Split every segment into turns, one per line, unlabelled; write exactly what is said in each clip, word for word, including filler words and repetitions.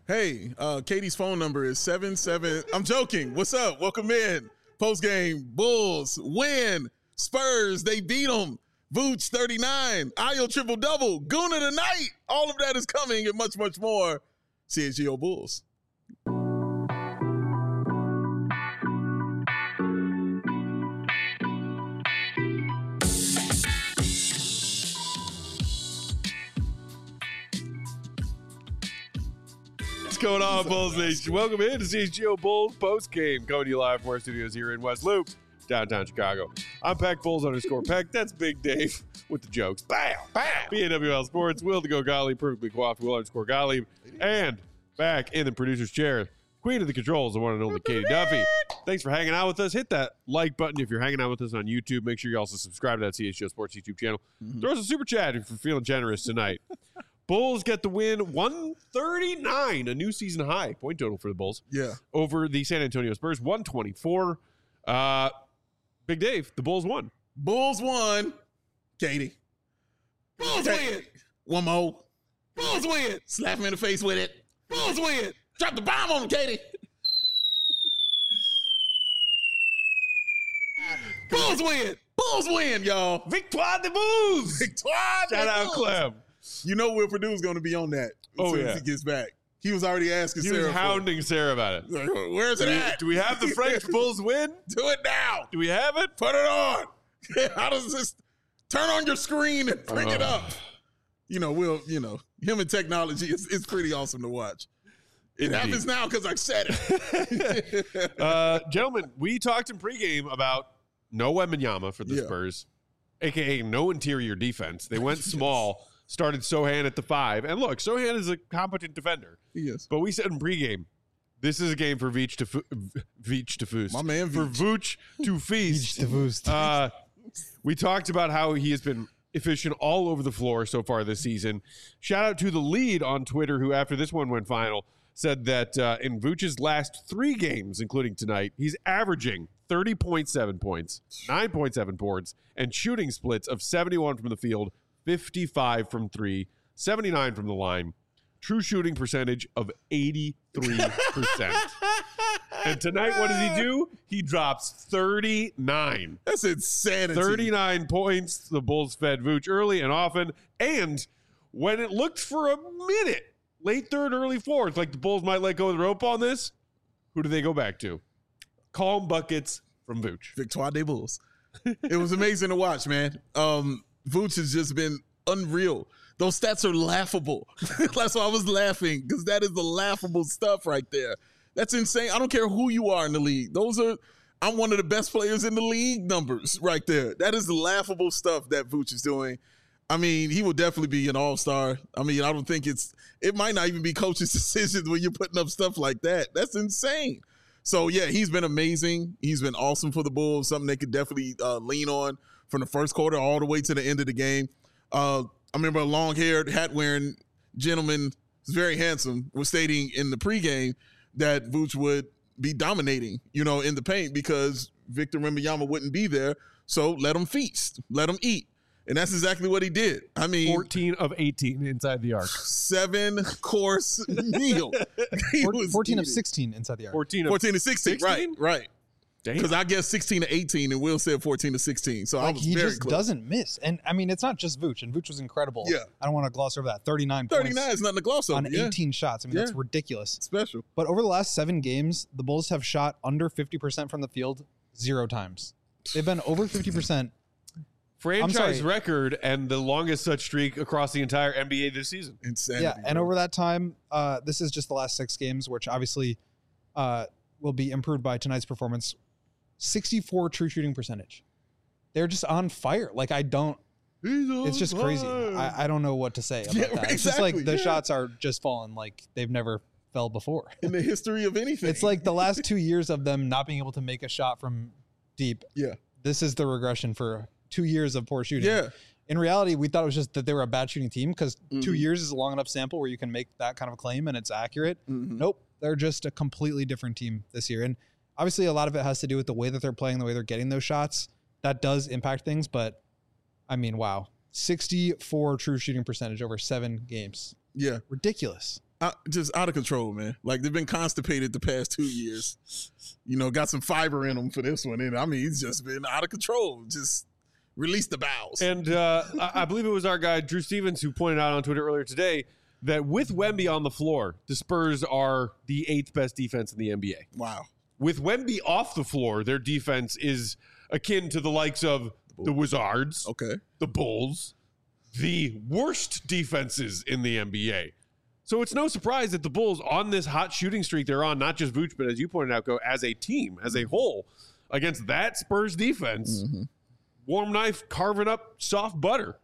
Hey, uh, Katie's phone number is seven seven. I'm joking. What's up? Welcome in. Post game. Bulls win. Spurs. They beat them. Vooch thirty-nine. Ayo triple double. Guna tonight. All of that is coming and much much more. C H G O Bulls.
What's going on, Bulls Nation? Welcome in to C H G O Bulls post game. Coming to you live from our studios here in West Loop, downtown Chicago. I'm Peck Bulls underscore Peck. That's Big Dave with the jokes. Bam! Bam! B A W L Sports. Will to go Gottlieb, perfectly coiffed Will underscore Gottlieb. And back in the producer's chair, queen of the controls, the one and only Katie Duffy. Thanks for hanging out with us. Hit that like button if you're hanging out with us on YouTube. Make sure you also subscribe to that C H G O Sports YouTube channel. Mm-hmm. Throw us a super chat if you're feeling generous tonight. Bulls get the win, one thirty-nine, a new season high point total for the Bulls.
Yeah.
Over the San Antonio Spurs, one twenty-four. Uh, Big Dave, the Bulls won.
Bulls won. Katie.
Bulls win.
One more.
Bulls win.
Slap him in the face with it.
Bulls win.
Drop the bomb on him, Katie.
Bulls win.
Bulls win, y'all.
Victoire de Bulls.
Victoire de
Shout out
Bulls.
Clem.
You know Will Purdue's going to be on that as
Oh,
soon
yeah.
as he gets back. He was already asking
He
Sarah.
was
for
hounding Sarah about it.
it. Like, where's it
Do we,
at?
do we have the French Bulls win?
Do it now.
Do we have it?
Put it on. How does this turn on your screen and bring it up? You know, Will, you know, him and technology is it's pretty awesome to watch. It
Indeed.
happens now because I said it.
Uh, gentlemen, we talked in pregame about no Wembanyama for the
Yeah.
Spurs, a k a no interior defense. They went small, started Sohan at the five. And look, Sohan is a competent defender.
Yes.
But we said in pregame, this is a game for Vooch to fu- Vooch to Foost.
My man
For
Vooch.
Vooch to feast. Uh, we talked about how he has been efficient all over the floor so far this season. Shout out to the lead on Twitter, who after this one went final, said that uh, in Vooch's last three games, including tonight, he's averaging thirty point seven points, nine point seven boards, and shooting splits of seventy-one from the field, fifty-five from three, seventy-nine from the line. True shooting percentage of eighty-three percent. And tonight, what does he do? He drops thirty-nine.
That's insanity.
thirty-nine points. The Bulls fed Vooch early and often. And when it looked for a minute, late third, early fourth, like the Bulls might let go of the rope on this, who do they go back to? Calm buckets from Vooch.
Victoire des Bulls. It was amazing to watch, man. Um, Vooch has just been unreal. Those stats are laughable. That's why I was laughing, because that is the laughable stuff right there. That's insane. I don't care who you are in the league. Those are, I'm one of the best players in the league numbers right there. That is the laughable stuff that Vooch is doing. I mean, he will definitely be an all-star. I mean, I don't think it's, it might not even be coach's decisions when you're putting up stuff like that. That's insane. So, yeah, he's been amazing. He's been awesome for the Bulls, something they could definitely uh, lean on from the first quarter all the way to the end of the game. Uh, I remember a long-haired, hat-wearing gentleman, who's very handsome, was stating in the pregame that Vooch would be dominating, you know, in the paint because Victor Wembanyama wouldn't be there. So let him feast, let him eat. And that's exactly what he did. I mean,
fourteen of eighteen inside the arc.
seven course meal. He
Four,
was
fourteen of
eating.
sixteen inside the arc.
fourteen of
fourteen to sixteen, right,
sixteen?
right.
Damn.
Because I guess sixteen to eighteen, and Will said fourteen to sixteen. So I
Like
was
he
very
just
close.
doesn't miss. And I mean, it's not just Vooch, and Vooch was incredible.
Yeah.
I don't want to gloss over that. thirty-nine,
thirty-nine
points
is nothing to gloss over.
on
yeah.
eighteen shots. I mean, that's
Yeah.
ridiculous.
Special.
But over the last seven games, the Bulls have shot under fifty percent from the field zero times. They've been over fifty percent.
franchise
sorry.
record and the longest such streak across the entire N B A this season.
Insanity.
Yeah, and
bro.
over that time, uh, this is just the last six games, which obviously uh, will be improved by tonight's performance. sixty-four true shooting percentage. They're just on fire. Like, I don't, it's just crazy. I, I don't know what to say about
Yeah,
that. It's just like
exactly,
the
yeah.
shots are just falling like they've never fell before.
in the history of anything.
It's like the last two years of them not being able to make a shot from deep.
yeah,
This is the regression for two years of poor shooting.
yeah.
In reality, we thought it was just that they were a bad shooting team because two
Mhm.
years is a long enough sample where you can make that kind of a claim and it's accurate.
Mhm.
Nope. They're just a completely different team this year. And obviously a lot of it has to do with the way that they're playing, the way they're getting those shots. That does impact things, but I mean, wow. sixty-four true shooting percentage over seven games.
Yeah.
Ridiculous.
uh, just out of control, man. Like they've been constipated the past two years. You know, got some fiber in them for this one, and I mean, he's just been out of control. Just release the bowels.
And uh, I, I believe it was our guy Drew Stevens who pointed out on Twitter earlier today that with Wemby on the floor, the Spurs are the eighth best defense in the N B A.
Wow.
With Wemby off the floor, their defense is akin to the likes of the Wizards,
Okay.
the Bulls, the worst defenses in the N B A. So it's no surprise that the Bulls, on this hot shooting streak they're on, not just Vooch, but as you pointed out, go as a team, as a whole, against that Spurs defense,
Mm-hmm.
warm knife carving up soft butter.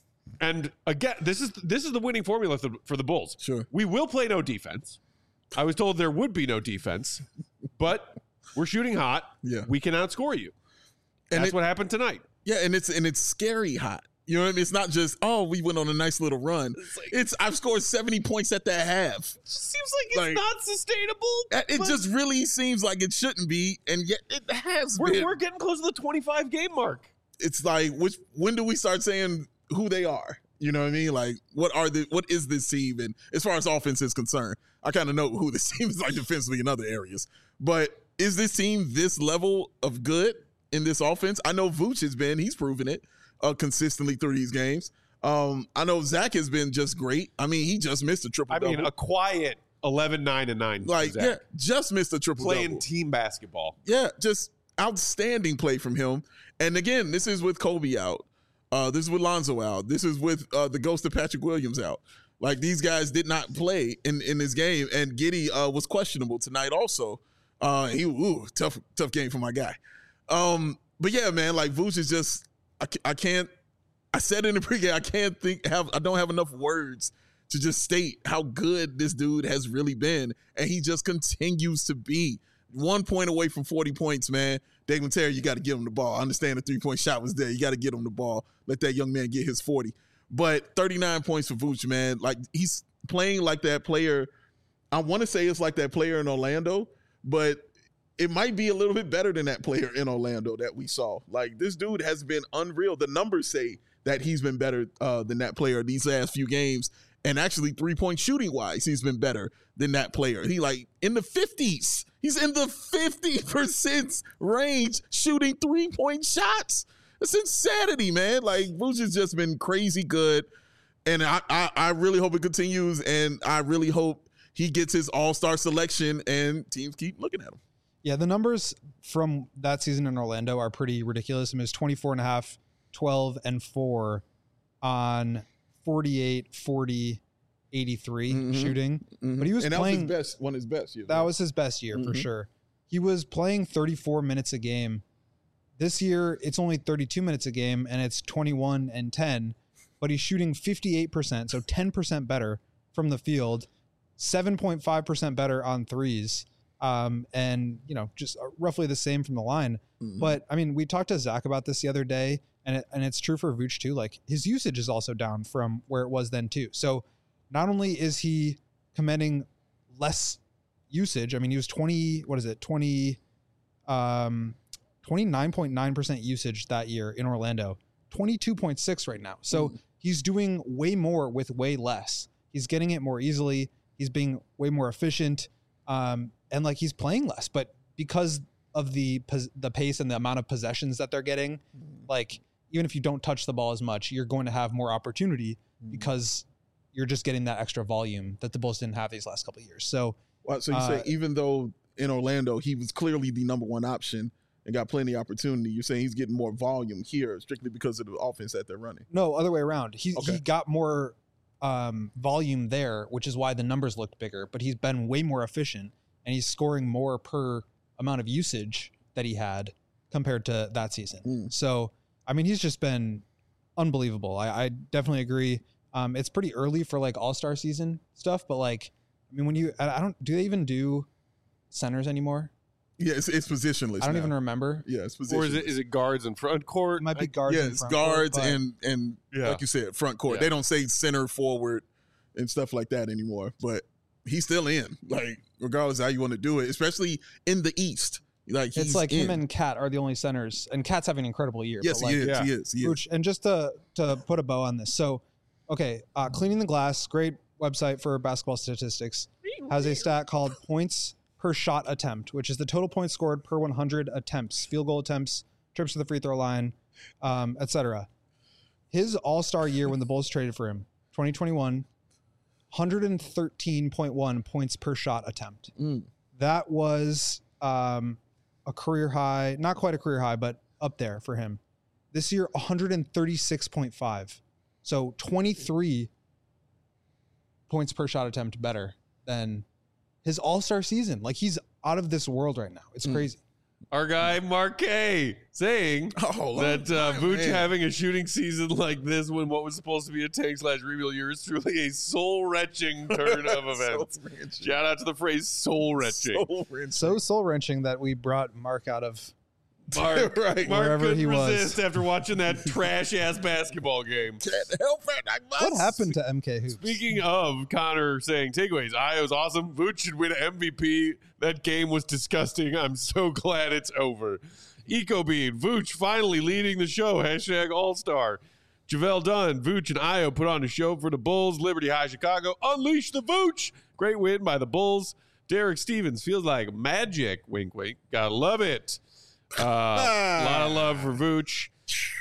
And again, this is this is the winning formula for, for the Bulls.
Sure.
We will play no defense. I was told there would be no defense, but we're shooting hot.
Yeah.
We can outscore you.
And
That's
it-
what happened tonight.
Yeah, and it's and it's scary hot. You know what I mean? It's not just, oh, we went on a nice little run. It's I've scored seventy points at the half.
Seems like it's
Like-
not sustainable.
It
but
just really seems like it shouldn't be, and yet it has
we're,
been.
we're getting close to the twenty-five game mark.
It's like, which when do we start saying who they are? You know what I mean? Like, what are the what is this team? And as far as offense is concerned, I kind of know who this team is like defensively in other areas. But is this team this level of good in this offense? I know Vooch has been; he's proven it uh, consistently through these games. Um, I know Zach has been just great. I mean, he just missed a triple
I
double.
mean, a quiet eleven, nine, and nine.
like,
Zach.
yeah, just missed a triple
playing
double.
team basketball.
Yeah, just outstanding play from him. And again, this is with Kobe out. Uh, this is with Lonzo out. This is with uh, the ghost of Patrick Williams out. Like, these guys did not play in, in this game. And Giddey uh, was questionable tonight also. Uh, he ooh, tough tough game for my guy. Um, but yeah, man, like Vooch is just I, ca- I can't. I said in the pregame, I can't think have I don't have enough words to just state how good this dude has really been, and he just continues to be one point away from forty points, man. Dave Terry, you got to give him the ball. I understand the three point shot was there. You got to get him the ball. Let that young man get his forty. But thirty-nine points for Vooch, man. Like, he's playing like that player. I want to say it's like that player in Orlando, but it might be a little bit better than that player in Orlando that we saw. Like, this dude has been unreal. The numbers say that he's been better uh, than that player these last few games. And actually, three-point shooting-wise, he's been better than that player. He, like, in the fifties. He's in the fifty percent range shooting three-point shots. It's insanity, man. Like, Vooch has just been crazy good. And I, I, I really hope it continues. And I really hope he gets his all-star selection and teams keep looking at him.
Yeah, the numbers from that season in Orlando are pretty ridiculous. I mean, it's twenty-four and a half, twelve and four on forty-eight, forty, eighty-three
Mhm.
shooting.
Mm-hmm.
But he was
and that
playing-
was his best, one of his best years.
That
right?
was his best year for
Mhm.
sure. He was playing thirty-four minutes a game. This year, it's only thirty-two minutes a game, and it's twenty-one and ten. But he's shooting fifty-eight percent, so ten percent better from the field, seven point five percent better on threes, um, and you know just roughly the same from the line.
Mhm.
But I mean, we talked to Zach about this the other day, and it, and it's true for Vooch too. Like, his usage is also down from where it was then too. So not only is he commanding less usage, I mean, he was twenty. What is it? Twenty, um, twenty-nine point nine percent usage that year in Orlando. Twenty-two point six right now. So
Mhm.
he's doing way more with way less. He's getting it more easily. He's being way more efficient, um, and like he's playing less. But because of the pos- the pace and the amount of possessions that they're getting, like even if you don't touch the ball as much, you're going to have more opportunity because you're just getting that extra volume that the Bulls didn't have these last couple of years. So
Well, so you
uh,
say even though in Orlando he was clearly the number one option and got plenty of opportunity, you're saying he's getting more volume here strictly because of the offense that they're running.
no, other way around. He
Okay.
he got more um, volume there, which is why the numbers looked bigger. But he's been way more efficient, and he's scoring more per amount of usage that he had compared to that season.
Mm.
So I mean, he's just been unbelievable. I, I definitely agree. Um, it's pretty early for like all-star season stuff, but like, I mean, when you, I I don't, do they even do centers anymore?
Yeah, it's, it's positionless.
I don't
now.
even remember.
Yeah, it's positionless.
Or is it is it guards in front court?
It might be
I-
guards.
yeah,
in
it's
front court,
guards
but-
and and
Yeah.
like you said, front court.
Yeah.
They don't say center, forward, and stuff like that anymore. But he's still in, like regardless of how you want to do it, especially in the East. Like he's
it's like
in.
him and Cat are the only centers, and Cat's having an incredible year.
yes,
but like,
he is.
yeah.
He is. He is.
Vooch- and just to to put a bow on this, so okay, uh, cleaning the glass, great website for basketball statistics, has a stat called points per shot attempt, which is the total points scored per one hundred attempts, field goal attempts, trips to the free throw line, um, et cetera. His all-star year when the Bulls traded for him, twenty twenty-one, one hundred thirteen point one points per shot attempt.
Mm.
That was um, a career high, not quite a career high, but up there for him. This year, one hundred thirty-six point five. So twenty-three points per shot attempt better than his all-star season. Like, he's out of this world right now. It's
Mm.
crazy.
Our guy Marquet saying
Oh,
that uh,
man.
Vooch having a shooting season like this when what was supposed to be a tank slash rebuild year is truly a soul-wrenching turn of events.
Soul-wrenching.
Shout out to the phrase soul-wrenching.
Soul-wrenching.
So soul-wrenching that we brought Mark out of
Mark,
Right.
Mark
Wherever
couldn't
he was.
resist after watching that trash-ass basketball game.
Can't help it. I must.
What happened to M K Hoops?
Speaking of Connor saying takeaways, Io's awesome. Vooch should win M V P. That game was disgusting. I'm so glad it's over. EcoBean, Vooch finally leading the show. Hashtag All-Star. Javale Dunn, Vooch and Io put on a show for the Bulls. Liberty High Chicago, unleash the Vooch. Great win by the Bulls. Derek Stevens, feels like magic. Wink, wink. Gotta love it. Uh, a lot of love for Vooch.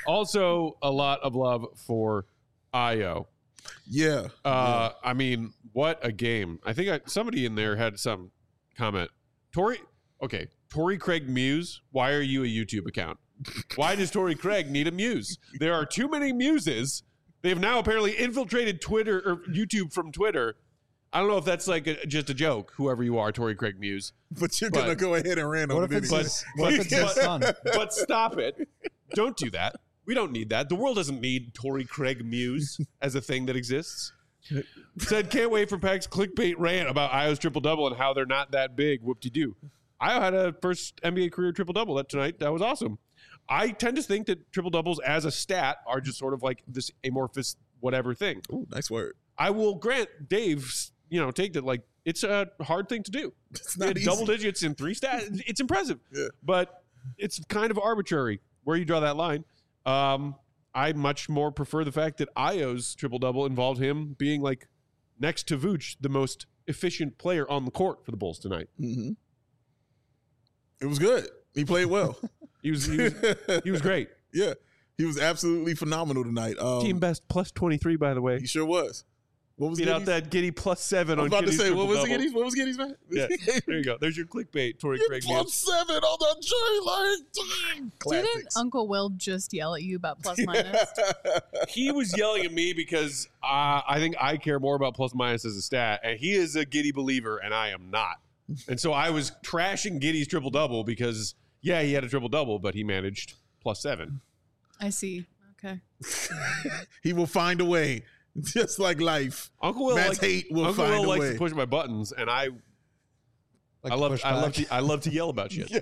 Also, a lot of love for Io.
Yeah.
Uh, I mean, what a game. I think I, somebody in there had some comment. Tori, okay, Tori Craig Muse, why are you a YouTube account? Why does Tori Craig need a muse? There are too many muses. They have now apparently infiltrated Twitter or YouTube from Twitter. I don't know if that's like a, just a joke, whoever you are, Tori Craig Muse.
But you're
But-
going to go ahead and rant
What
on
if
it
it's
anyway.
his, what if it's his son?
But stop it. Don't do that. We don't need that. The world doesn't need Tori Craig Muse as a thing that exists. Said, can't wait for Pack's clickbait rant about Io's triple-double and how they're not that big. Whoop-de-doo. Io had a first N B A career triple-double that tonight. That was awesome. I tend to think that triple-doubles as a stat are just sort of like this amorphous whatever thing.
Ooh, nice word.
I will grant Dave's, you know, take that like it's a hard thing to do.
It's
Yeah,
not easy.
double digits in three stats. It's impressive,
Yeah.
but it's kind of arbitrary where you draw that line. Um, I much more prefer the fact that Io's triple double involved him being like next to Vooch, the most efficient player on the court for the Bulls tonight.
Mm-hmm. It was good. He played well.
He was he was, he was great.
Yeah. He was absolutely phenomenal tonight. Um,
Team best plus twenty three, by the way.
He sure was. What was
Beat out
Giddy's?
that Giddy plus seven
I
on
was about to
Giddy's
say, what was
triple-double.
Giddy's? What was Giddy's, man?
Yeah, there you go. There's your clickbait, Tory
You're
Craig
plus
Muse.
seven on the Jerry Lane team.
Didn't
Classics.
Uncle Will just yell at you about plus minus?
He was yelling at me because uh, I think I care more about plus minus as a stat, and he is a Giddy believer, and I am not. And so I was trashing Giddy's triple double because, yeah, he had a triple double, but he managed plus seven.
I see. Okay.
He will find a way, just like life.
Uncle Will,
Matt's
likes,
hate will
Uncle
find
Will
a
likes
way.
to push my buttons, and I,
Like
I love,
push
I love,
back?
to, I love to yell about shit.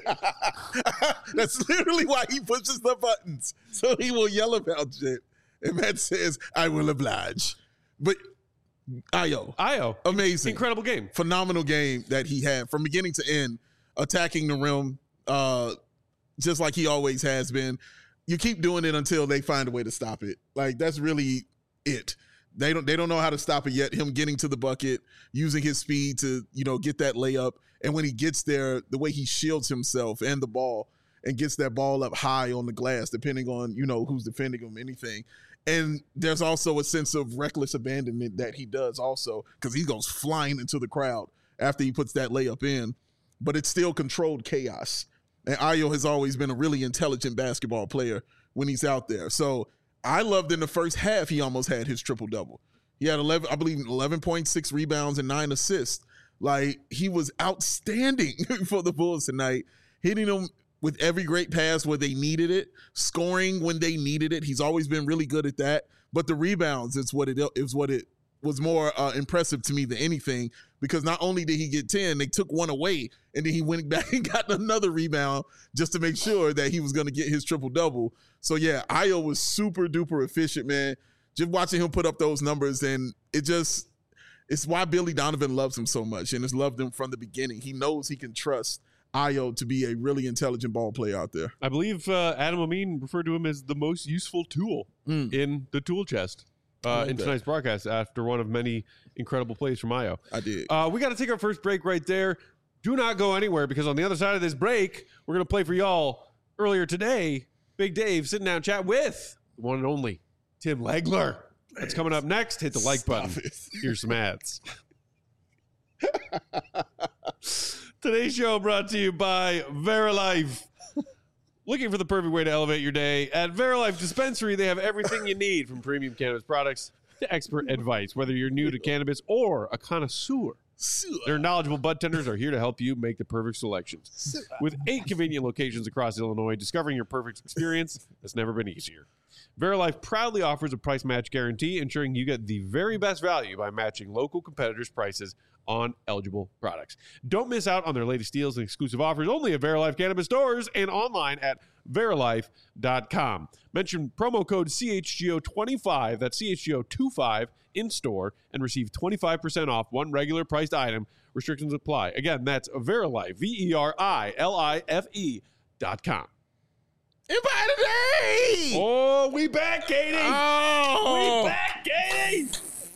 That's literally why he pushes the buttons, so he will yell about shit. And Matt says, "I will oblige." But Io,
Io,
amazing,
incredible game.
phenomenal game that he had from beginning to end, attacking the rim, uh, just like he always has been. You keep doing it until they find a way to stop it. Like, that's really it. They don't they don't know how to stop it yet. Him getting to the bucket, using his speed to, you know, get that layup. And when he gets there, the way he shields himself and the ball and gets that ball up high on the glass, depending on, you know, who's defending him, anything. And there's also a sense of reckless abandonment that he does also, because he goes flying into the crowd after he puts that layup in. But it's still controlled chaos. And Io has always been a really intelligent basketball player when he's out there. So I loved in the first half, he almost had his triple-double. He had eleven, I believe, eleven point six rebounds and nine assists. Like, he was outstanding for the Bulls tonight, hitting them with every great pass where they needed it, scoring when they needed it. He's always been really good at that. But the rebounds is what it is what it was more uh, impressive to me than anything, because not only did he get ten, they took one away, and then he went back and got another rebound just to make sure that he was going to get his triple-double. So, yeah, Io was super-duper efficient, man. Just watching him put up those numbers, and it just – it's why Billy Donovan loves him so much and has loved him from the beginning. He knows he can trust Io to be a really intelligent ball player out there.
I believe uh, Adam Amin referred to him as the most useful tool
Mm.
in the tool chest. uh,
like
in
that.
tonight's broadcast after one of many incredible plays from Mayo.
I did.
Uh, we got to take our first break right there. Do not go anywhere because on the other side of this break, we're going to play for y'all. Earlier today, Big Dave sitting down chat with the one and only Tim Legler. That's coming up next. Hit the like button.
Stop it.
Here's some ads. Today's show brought to you by Verilife. Looking for the perfect way to elevate your day? At Verilife Dispensary, they have everything you need from premium cannabis products to expert advice, whether you're new to cannabis or a connoisseur. Their knowledgeable bud tenders are here to help you make the perfect selections. With eight convenient locations across Illinois, discovering your perfect experience has never been easier. Verilife proudly offers a price match guarantee, ensuring you get the very best value by matching local competitors' prices on eligible products. Don't miss out on their latest deals and exclusive offers only at Verilife Cannabis stores and online at verilife dot com. Mention promo code C H G O twenty-five, that's C H G O twenty-five, in store and receive twenty-five percent off one regular priced item. Restrictions apply. Again, that's Verilife, V E R I L I F E dot com.
Empire today.
Oh, we back, Katie.
Oh.
We back, Katie.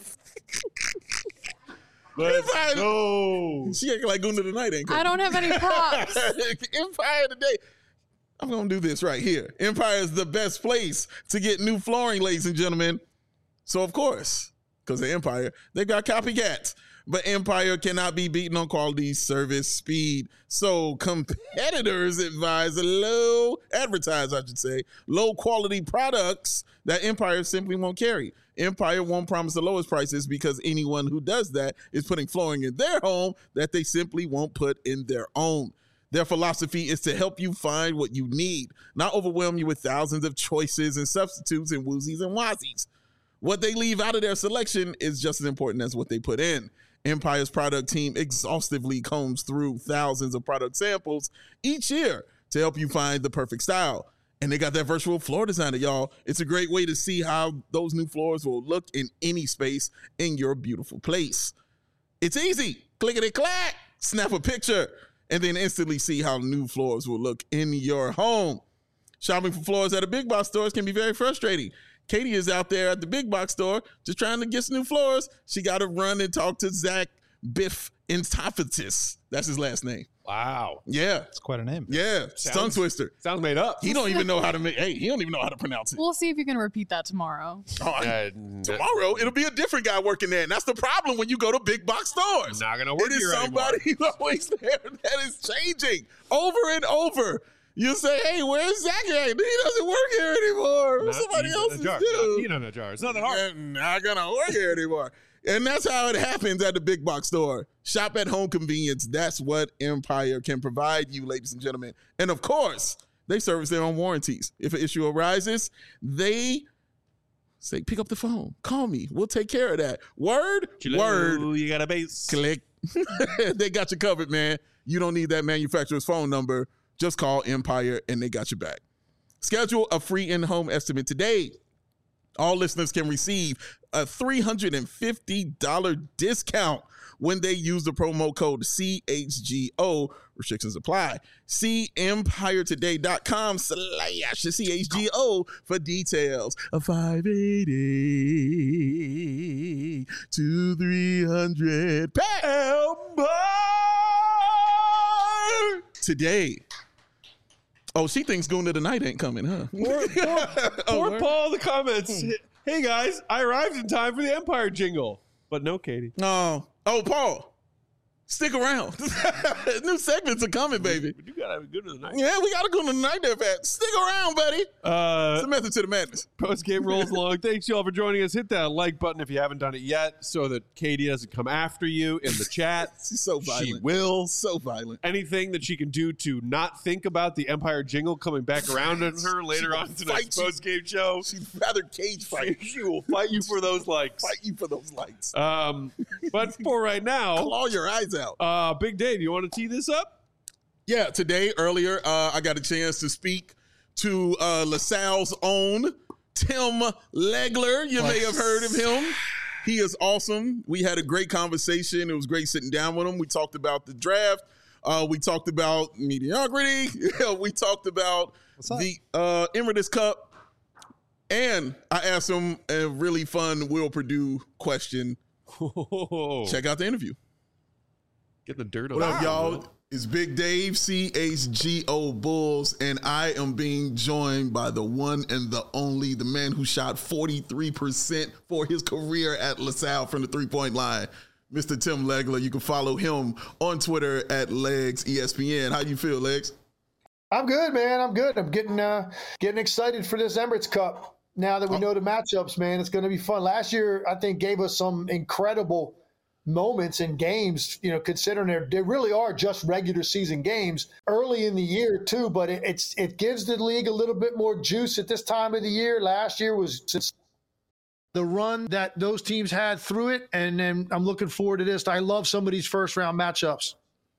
Let's
Empire.
go.
She acting like Gunda tonight, ain't
I don't have any props.
Empire today. I'm going to do this right here. Empire is the best place to get new flooring, ladies and gentlemen. So, of course, because of Empire, they've got copycats. But Empire cannot be beaten on quality, service, speed. So competitors advise low, advertise, I should say, low quality products that Empire simply won't carry. Empire won't promise the lowest prices because anyone who does that is putting flooring in their home that they simply won't put in their own. Their philosophy is to help you find what you need, not overwhelm you with thousands of choices and substitutes and woozies and wazies. What they leave out of their selection is just as important as what they put in. Empire's product team exhaustively combs through thousands of product samples each year to help you find the perfect style. And they got that virtual floor designer, y'all. It's a great way to see how those new floors will look in any space in your beautiful place. It's easy. Clickety-clack, snap a picture, and then instantly see how new floors will look in your home. Shopping for floors at a big box stores can be very frustrating. Katie is out there at the big box store just trying to get some new floors. She got to run and talk to Zach Biff Intophatis. That's his last name.
Wow.
Yeah.
It's quite a name.
Yeah.
Sounds-
Tongue twister.
Sounds made up.
He don't even know how to make, hey, he don't even know how to pronounce it.
We'll see if you can repeat that tomorrow.
Oh, I-
Uh,
tomorrow, it'll be a different guy working there. And that's the problem when you go to big box stores.
Not going to work
It is
here
somebody
anymore.
who's always there that is changing over and over. You say, hey, where's Zach at? He doesn't work here anymore.
Not
Somebody
peanut
else
in
is
a jar.
due.
Not peanut in a jar. It's not that hard.
They're not gonna work here anymore. And that's how it happens at the big box store. Shop at home convenience. That's what Empire can provide you, ladies and gentlemen. And of course, they service their own warranties. If an issue arises, they say, pick up the phone. Call me. We'll take care of that. Word? Word.
Hello, you got a base.
Click. They got you covered, man. You don't need that manufacturer's phone number. Just call Empire and they got you back. Schedule a free in-home estimate today. All listeners can receive a three hundred fifty dollars discount when they use the promo code C H G O. Restrictions apply. See empire today dot com slash C H G O for details. A five eighty to three hundred Empire today. Oh, she thinks Gunda tonight ain't coming, huh?
Poor, poor,
Oh,
poor
word?
Paul in the comments. Hey, guys, I arrived in time for the Empire jingle. But no, Katie.
No. Oh, Paul, stick around. New segments are coming, baby.
But you got to have a good tonight.
Yeah, we got to go tonight there, Pat. Stick around, buddy. It's
Uh,
the method to the madness.
Post game rolls along. Thanks, y'all, for joining us. Hit that like button if you haven't done it yet so that Katie doesn't come after you in the chat.
She's so violent.
She will.
So violent.
Anything that she can do to not think about the Empire jingle coming back around on her later on tonight's
fight you.
post game show.
She'd rather cage fight.
She will fight you for those likes.
Fight you for those lights.
Um, but for right now,
Claw your eyes out.
uh, Big Dave, you want to tee this up?
Yeah, today, earlier, uh, I got a chance to speak to uh, LaSalle's own Tim Legler. You may have heard of him. He is awesome. We had a great conversation. It was great sitting down with him. We talked about the draft. Uh, we talked about mediocrity. we talked about
What's up?
the uh, Emeritus Cup. And I asked him a really fun Will Purdue question.
Whoa.
Check out the interview.
Get the dirt on
What up,
that,
y'all?
man.
It's Big Dave, C H G O Bulls, and I am being joined by the one and the only, the man who shot forty-three percent for his career at LaSalle from the three-point line, Mister Tim Legler. You can follow him on Twitter at Legs E S P N. How you feel, Legs?
I'm good, man. I'm good. I'm getting uh, getting excited for this Emirates Cup. Now that we know the matchups, man, it's going to be fun. Last year, I think, gave us some incredible moments in games, you know, considering they're, they really are just regular season games early in the year too, but it, it's it gives the league a little bit more juice at this time of the year. Last year was since the run that those teams had through it, and then I'm looking forward to this. I love some of these first round matchups.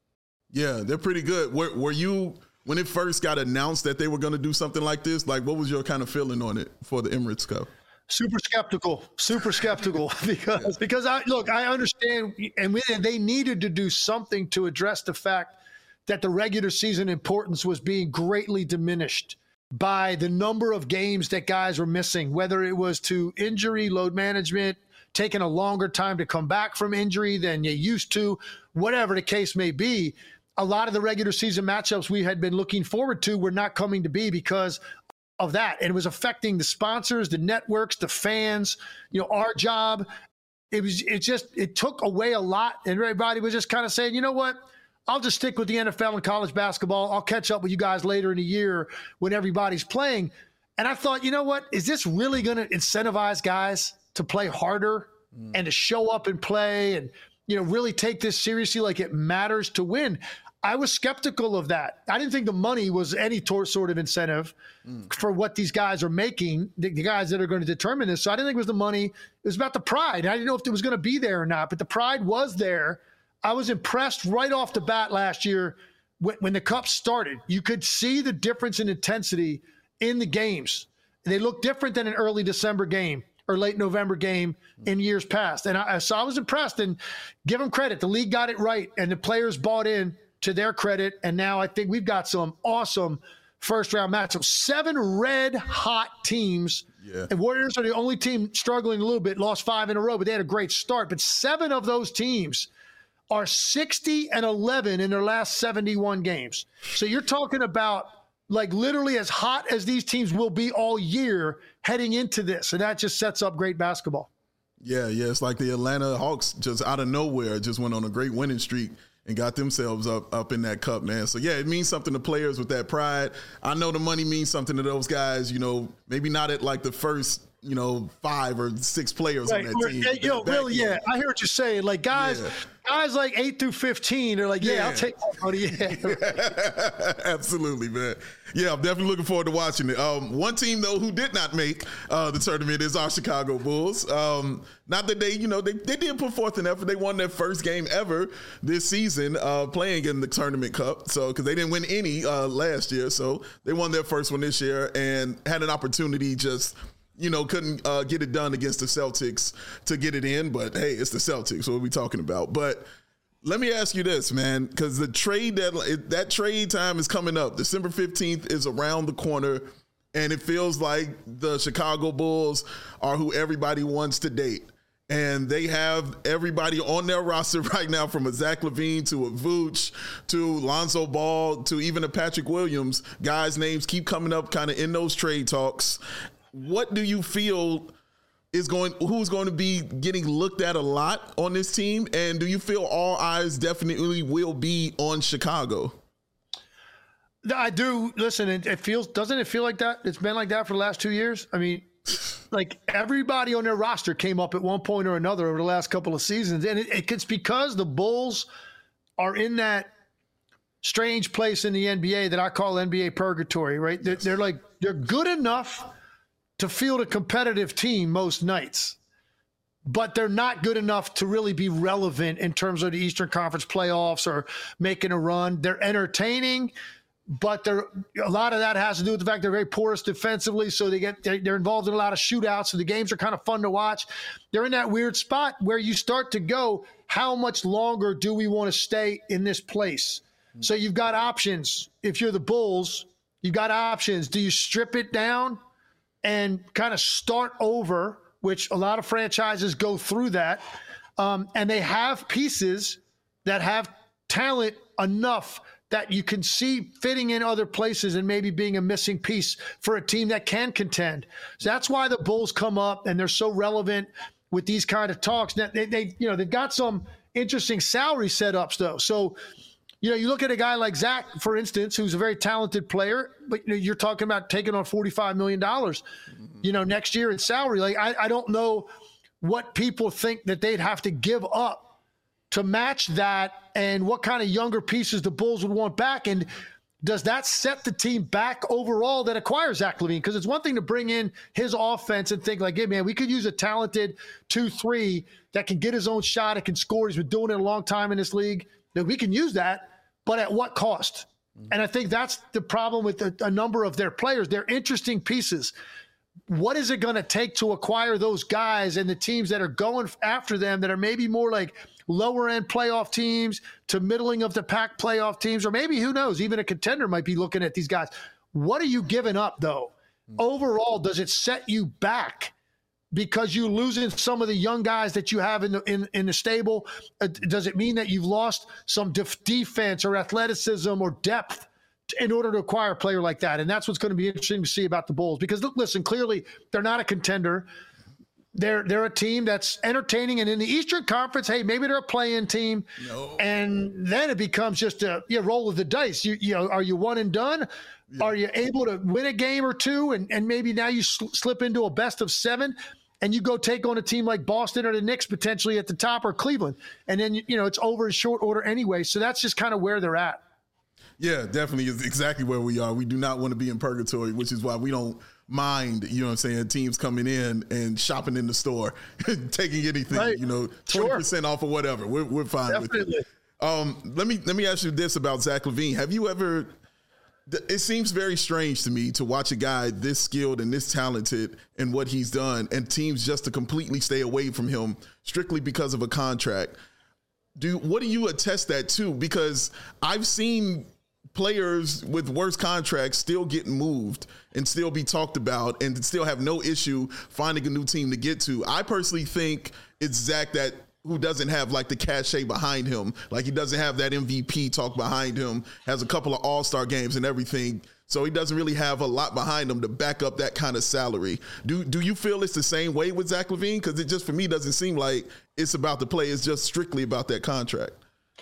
Yeah, they're pretty good. Were, were you, when it first got announced that they were going to do something like this, like what was your kind of feeling on it for the Emirates Cup?
Super skeptical, super skeptical because because I look, I understand, and we, they needed to do something to address the fact that the regular season importance was being greatly diminished by the number of games that guys were missing, whether it was to injury, load management, taking a longer time to come back from injury than you used to, whatever the case may be. A lot of the regular season matchups we had been looking forward to were not coming to be because of that. And it was affecting the sponsors, the networks, the fans, you know, our job. It was, it just, it took away a lot. And everybody was just kind of saying, you know what, I'll just stick with the N F L and college basketball. I'll catch up with you guys later in the year when everybody's playing. And I thought, you know what, is this really going to incentivize guys to play harder mm. and to show up and play and, you know, really take this seriously like it matters to win? I was skeptical of that. I didn't think the money was any tor- sort of incentive mm. for what these guys are making, the, the guys that are going to determine this. So I didn't think it was the money. It was about the pride. I didn't know if it was going to be there or not, but the pride was there. I was impressed right off the bat last year when, when the Cup started. You could see the difference in intensity in the games. They look different than an early December game or late November game in years past. And I, so I was impressed, and give them credit. The league got it right, and the players bought in to their credit. And now I think we've got some awesome first round matchups. Seven red hot teams. Yeah. And Warriors are the only team struggling a little bit, lost five in a row, but they had a great start. But seven of those teams are sixty and eleven in their last seventy-one games. So you're talking about like literally as hot as these teams will be all year heading into this. And that just sets up great basketball.
Yeah, yeah. It's like the Atlanta Hawks just out of nowhere just went on a great winning streak and got themselves up up in that cup, man. So, yeah, it means something to players with that pride. I know the money means something to those guys, you know, maybe not at like the first, you know, five or six players right. on that team.
Hey, yo, really, yeah, I hear what you're saying. Like, guys, yeah. guys like eight through fifteen are like, yeah, yeah. I'll take that money. Yeah.
Absolutely, man. Yeah, I'm definitely looking forward to watching it. Um, one team, though, who did not make uh, the tournament is our Chicago Bulls. Um, not that they, you know, they, they did put forth an effort. They won their first game ever this season uh, playing in the Tournament Cup. So, because they didn't win any uh, last year. So, they won their first one this year and had an opportunity just – you know, couldn't uh, get it done against the Celtics to get it in. But, hey, it's the Celtics. What are we talking about? But let me ask you this, man, because the trade deadline, that trade time is coming up. December fifteenth is around the corner, and it feels like the Chicago Bulls are who everybody wants to date. And they have everybody on their roster right now, from a Zach LaVine to a Vooch to Lonzo Ball to even a Patrick Williams. Guys' names keep coming up kind of in those trade talks. What do you feel is going, who's going to be getting looked at a lot on this team? And do you feel all eyes definitely will be on Chicago?
I do. Listen, it, it feels, doesn't it feel like that? It's been like that for the last two years. I mean, like everybody on their roster came up at one point or another over the last couple of seasons. And it, it's because the Bulls are in that strange place in the N B A that I call N B A purgatory, right? They're, they're like, they're good enough to field a competitive team most nights, but they're not good enough to really be relevant in terms of the Eastern Conference playoffs or making a run. They're entertaining, but they're, a lot of that has to do with the fact they're very porous defensively, so they get they're involved in a lot of shootouts, so the games are kind of fun to watch. They're in that weird spot where you start to go, how much longer do we want to stay in this place? Mm-hmm. So you've got options. If you're the Bulls, you've got options. Do you strip it down and kind of start over, which a lot of franchises go through that. Um, and they have pieces that have talent enough that you can see fitting in other places and maybe being a missing piece for a team that can contend. So that's why the Bulls come up and they're so relevant with these kind of talks. Now, they, they, you know, they've got some interesting salary setups though. So, you know, you look at a guy like Zach, for instance, who's a very talented player, but you know, you're talking about taking on forty-five million dollars, you know, next year in salary. Like, I, I don't know what people think that they'd have to give up to match that, and what kind of younger pieces the Bulls would want back. And does that set the team back overall that acquires Zach LaVine? Because it's one thing to bring in his offense and think like, hey, man, we could use a talented two three that can get his own shot, it can score. He's been doing it a long time in this league. That we can use that, but at what cost? And I think that's the problem with a, a number of their players. They're interesting pieces. What is it going to take to acquire those guys and the teams that are going after them that are maybe more like lower end playoff teams to middling of the pack playoff teams, or maybe, who knows, even a contender might be looking at these guys. What are you giving up though? Overall, does it set you back because you're losing some of the young guys that you have in the in, in the stable? Uh, does it mean that you've lost some def- defense or athleticism or depth in order to acquire a player like that? And that's what's going to be interesting to see about the Bulls, because listen, clearly they're not a contender. They're they're a team that's entertaining, and in the Eastern Conference, hey, maybe they're a play-in team,
No.
and then it becomes just a yeah, roll of the dice. You you know, are you one and done? Yeah. Are you able to win a game or two, and and maybe now you sl- slip into a best of seven, and you go take on a team like Boston or the Knicks potentially at the top, or Cleveland, and then you know it's over in short order anyway. So that's just kind of where they're at.
Yeah, definitely is exactly where we are. We do not want to be in purgatory, which is why we don't mind, you know what I'm saying, teams coming in and shopping in the store, taking anything, right. you know, twenty percent sure. off or whatever. We're, we're fine Definitely. with it. Um, let me let me ask you this about Zach LaVine. Have you ever, it seems very strange to me to watch a guy this skilled and this talented in what he's done, and teams just to completely stay away from him strictly because of a contract. Do what do you attest that to? Because I've seen players with worse contracts still getting moved and still be talked about and still have no issue finding a new team to get to. I personally think it's Zach that who doesn't have like the cachet behind him. Like he doesn't have that M V P talk behind him, has a couple of all-star games and everything. So he doesn't really have a lot behind him to back up that kind of salary. Do do you feel it's the same way with Zach LaVine? Because it just, for me, doesn't seem like it's about the play. It's just strictly about that contract.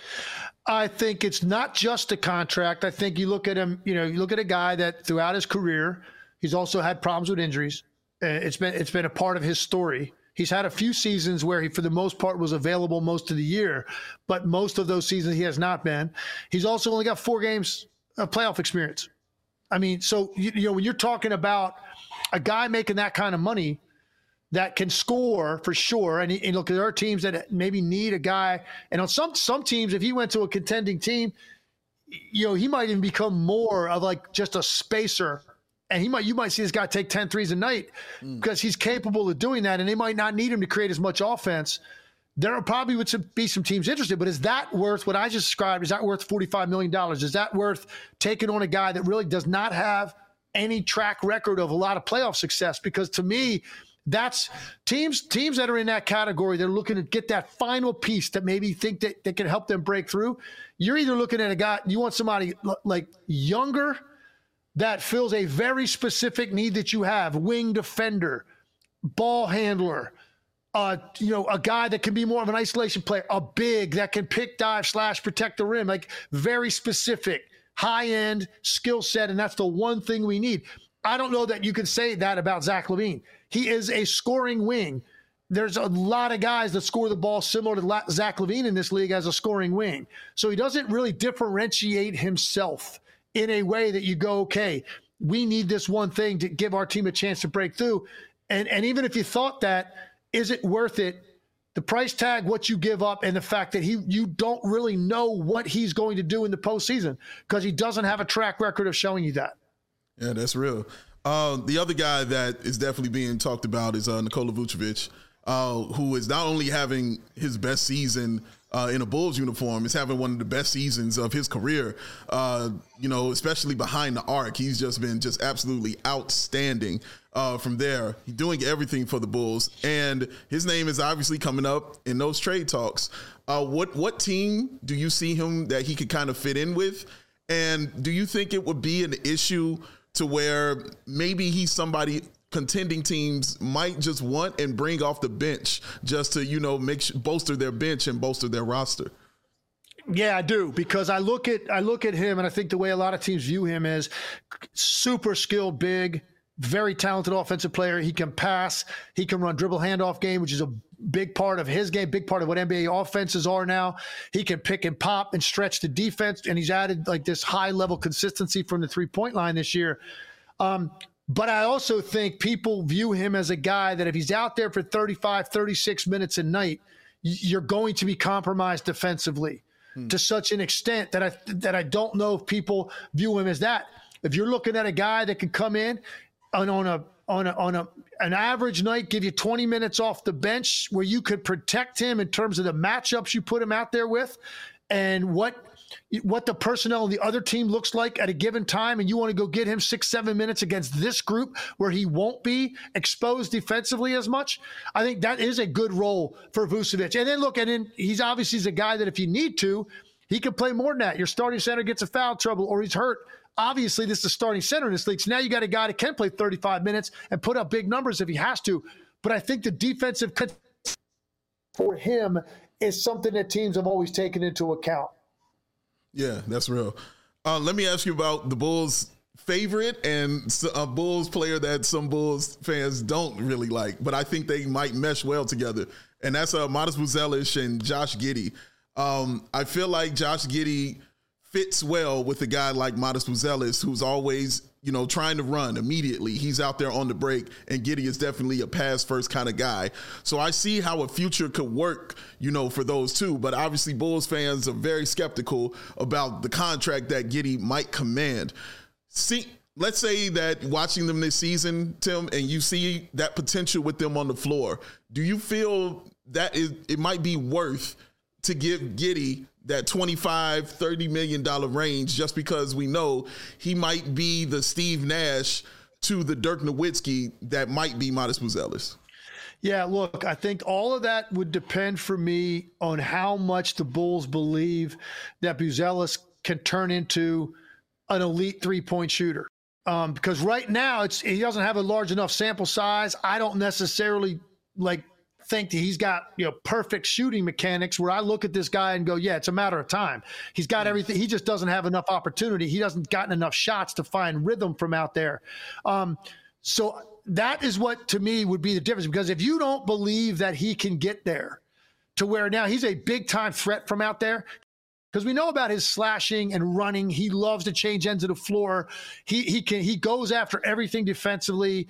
I think it's not just a contract. I think you look at him, you know, you look at a guy that throughout his career, he's also had problems with injuries. Uh, it's been it's been a part of his story. He's had a few seasons where he, for the most part, was available most of the year, but most of those seasons he has not been. He's also only got four games of playoff experience. I mean, so, you, you know, when you're talking about a guy making that kind of money that can score for sure, and, he, and look, there are teams that maybe need a guy, and on some some teams, if he went to a contending team, you know, he might even become more of like just a spacer, and he might you might see this guy take ten threes a night mm. because he's capable of doing that, and they might not need him to create as much offense. There probably would be some teams interested, but is that worth what I just described? Is that worth forty-five million dollars? Is that worth taking on a guy that really does not have any track record of a lot of playoff success? Because to me, that's teams teams that are in that category. They're looking to get that final piece that maybe think that, that can help them break through. You're either looking at a guy, you want somebody like younger that fills a very specific need that you have, wing defender, ball handler, uh, you know, a guy that can be more of an isolation player, a big that can pick, dive, slash, protect the rim, like very specific, high-end skill set, and that's the one thing we need. I don't know that you can say that about Zach LaVine. He is a scoring wing. There's a lot of guys that score the ball similar to Zach LaVine in this league as a scoring wing. So he doesn't really differentiate himself in a way that you go, okay, we need this one thing to give our team a chance to break through. And, and even if you thought that, is it worth it? The price tag, what you give up, and the fact that he you don't really know what he's going to do in the postseason because he doesn't have a track record of showing you that.
Yeah, that's real. Uh, the other guy that is definitely being talked about is uh, Nikola Vucevic, uh, who is not only having his best season uh, in a Bulls uniform is having one of the best seasons of his career. Uh, you know, especially behind the arc, he's just been just absolutely outstanding uh, from there. He's doing everything for the Bulls, and his name is obviously coming up in those trade talks. Uh, what what team do you see him that he could kind of fit in with? And do you think it would be an issue to where maybe he's somebody contending teams might just want and bring off the bench just to, you know, make bolster their bench and bolster their roster?
Yeah, I do, because I look at I look at him, and I think the way a lot of teams view him is super skilled, big, very talented offensive player. He can pass, he can run dribble handoff game, which is a big part of his game, big part of what N B A offenses are now. He can pick and pop and stretch the defense, and he's added like this high level consistency from the three point line this year. Um, But I also think people view him as a guy that if he's out there for thirty-five, thirty-six minutes a night, you're going to be compromised defensively hmm. to such an extent that I that I don't know if people view him as that. If you're looking at a guy that can come in and on a on a on a an average night give you twenty minutes off the bench where you could protect him in terms of the matchups you put him out there with and what what the personnel on the other team looks like at a given time, and you want to go get him six, seven minutes against this group where he won't be exposed defensively as much, I think that is a good role for Vucevic. And then look, and then he's obviously a guy that if you need to, he can play more than that. Your starting center gets a foul trouble or he's hurt. Obviously, this is the starting center in this league. So now you got a guy that can play thirty-five minutes and put up big numbers if he has to. But I think the defensive for him is something that teams have always taken into account.
Yeah, that's real. Uh, let me ask you about the Bulls' favorite and a Bulls player that some Bulls fans don't really like, but I think they might mesh well together, and that's uh, Matas Buzelis and Josh Giddey. Um, I feel like Josh Giddey fits well with a guy like Matas Buzelis, who's always, you know, trying to run immediately. He's out there on the break, and Giddey is definitely a pass-first kind of guy. So I see how a future could work, you know, for those two. But obviously Bulls fans are very skeptical about the contract that Giddey might command. See, let's say that watching them this season, Tim, and you see that potential with them on the floor, do you feel that is, it might be worth to give Giddey that twenty-five, thirty million dollars range just because we know he might be the Steve Nash to the Dirk Nowitzki that might be Matas Buzelis?
Yeah, look, I think all of that would depend for me on how much the Bulls believe that Buzelis can turn into an elite three-point shooter. Um, because right now it's he doesn't have a large enough sample size. I don't necessarily like think that he's got, you know, perfect shooting mechanics where I look at this guy and go, yeah, it's a matter of time. He's got everything. He just doesn't have enough opportunity. He doesn't gotten enough shots to find rhythm from out there. Um, so that is what to me would be the difference, because if you don't believe that he can get there to where now he's a big time threat from out there, because we know about his slashing and running. He loves to change ends of the floor. He he can he goes after everything defensively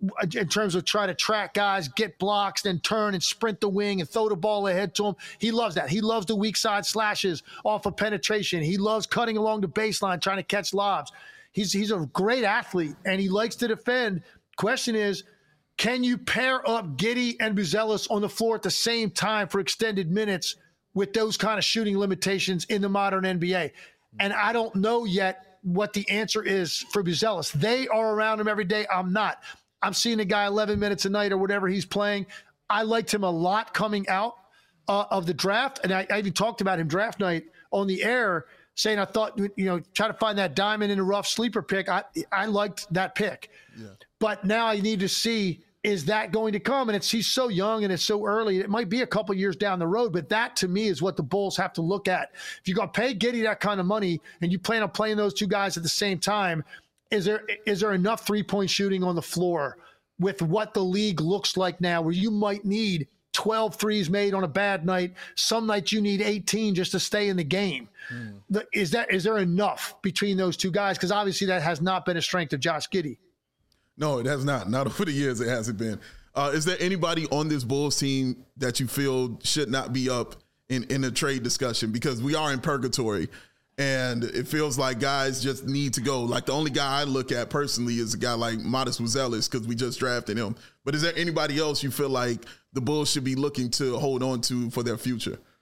in terms of trying to track guys, get blocks, then turn and sprint the wing and throw the ball ahead to him. He loves that. He loves the weak side slashes off of penetration. He loves cutting along the baseline, trying to catch lobs. He's he's a great athlete, and he likes to defend. Question is, can you pair up Giddey and Buzelis on the floor at the same time for extended minutes with those kind of shooting limitations in the modern N B A? And I don't know yet what the answer is for Buzelis. They are around him every day. I'm not. I'm seeing a guy eleven minutes a night or whatever he's playing. I liked him a lot coming out uh, of the draft. And I, I even talked about him draft night on the air, saying I thought, you know, try to find that diamond in a rough sleeper pick. I, I liked that pick. Yeah. But now I need to see, is that going to come? And it's he's so young and it's so early. It might be a couple years down the road, but that to me is what the Bulls have to look at. If you're going to pay Giddey that kind of money and you plan on playing those two guys at the same time, is there is there enough three-point shooting on the floor with what the league looks like now, where you might need twelve threes made on a bad night? Some nights you need eighteen just to stay in the game. Mm. The, is that is there enough between those two guys? Because obviously that has not been a strength of Josh Giddey.
No, it has not. Not over the years it hasn't been. Uh, is there anybody on this Bulls team that you feel should not be up in, in a trade discussion? Because we are in purgatory, and it feels like guys just need to go. Like the only guy I look at personally is a guy like Matas Buzelis because we just drafted him. But is there anybody else you feel like the Bulls should be looking to hold on to for their future?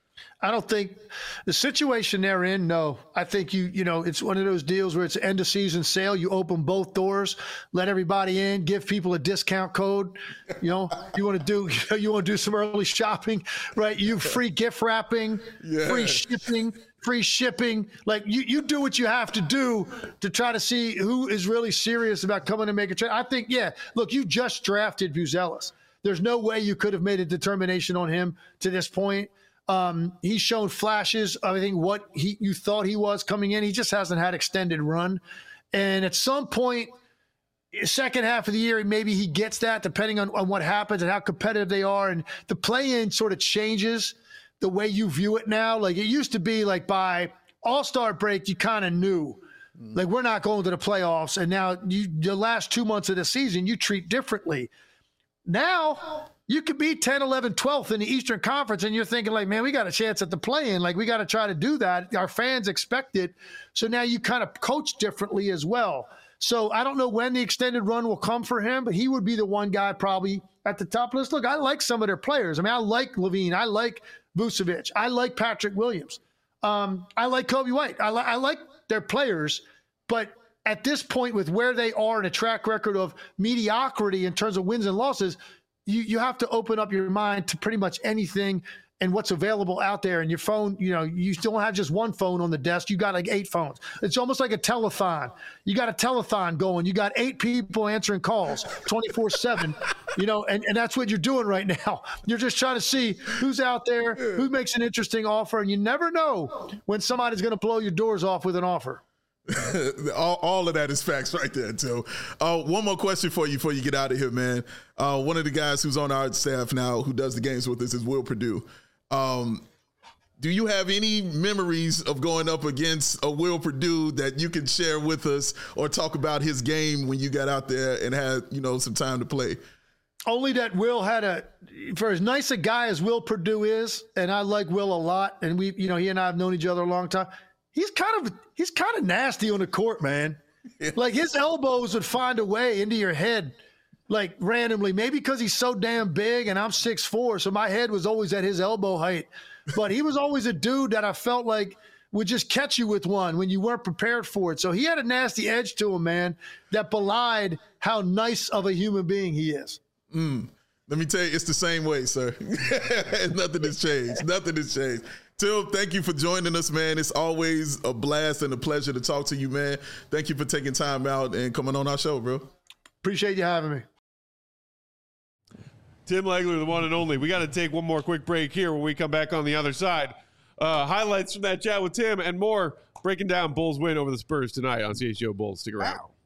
I don't think the situation they're in. No, I think you, you know, it's one of those deals where it's end of season sale. You open both doors, let everybody in, give people a discount code. You know, you want to do, you want to do some early shopping, right? You free gift wrapping,
Yeah.
free shipping, free shipping. Like you, you do what you have to do to try to see who is really serious about coming and make a trade. I think, yeah, look, you just drafted Buzelis. There's no way you could have made a determination on him to this point. Um, he's shown flashes of, I think, what he you thought he was coming in. He just hasn't had extended run. And at some point, second half of the year, maybe he gets that, depending on, on what happens and how competitive they are. And the play-in sort of changes the way you view it now. Like it used to be like by All-Star break, you kind of knew. Like we're not going to the playoffs. And now you, the last two months of the season, you treat differently. Now you could be ten, eleven, twelfth in the Eastern Conference, and you're thinking like, man, we got a chance at the play-in. Like we got to try to do that. Our fans expect it. So now you kind of coach differently as well. So I don't know when the extended run will come for him, but he would be the one guy probably at the top list. Look, I like some of their players. I mean, I like Levine. I like Vucevic. I like Patrick Williams. Um, I like Kobe White. I, li- I like their players, but at this point, with where they are in a track record of mediocrity in terms of wins and losses, you, you have to open up your mind to pretty much anything and what's available out there. And your phone, you know, you don't have just one phone on the desk. You got like eight phones. It's almost like a telethon. You got a telethon going. You got eight people answering calls twenty-four seven, you know, and, and that's what you're doing right now. You're just trying to see who's out there, who makes an interesting offer. And you never know when somebody's going to blow your doors off with an offer.
all, all of that is facts right there, too. Uh, one more question for you before you get out of here, man. Uh, one of the guys who's on our staff now who does the games with us is Will Perdue. Um, do you have any memories of going up against a Will Perdue that you can share with us or talk about his game when you got out there and had, you know, some time to play?
Only that Will had a, for as nice a guy as Will Perdue is, and I like Will a lot, and we, you know, he and I have known each other a long time. He's kind of he's kind of nasty on the court, man. Like his elbows would find a way into your head, like randomly. Maybe because he's so damn big, and I'm six foot four, so my head was always at his elbow height. But he was always a dude that I felt like would just catch you with one when you weren't prepared for it. So he had a nasty edge to him, man, that belied how nice of a human being he is.
Mm. Let me tell you, it's the same way, sir. Nothing has changed. Nothing has changed. Tim, thank you for joining us, man. It's always a blast and a pleasure to talk to you, man. Thank you for taking time out and coming on our show, bro.
Appreciate you having me.
Tim Legler, the one and only. We got to take one more quick break here when we come back on the other side. Uh, highlights from that chat with Tim and more, breaking down Bulls' win over the Spurs tonight on C H G O Bulls. Stick around. Wow.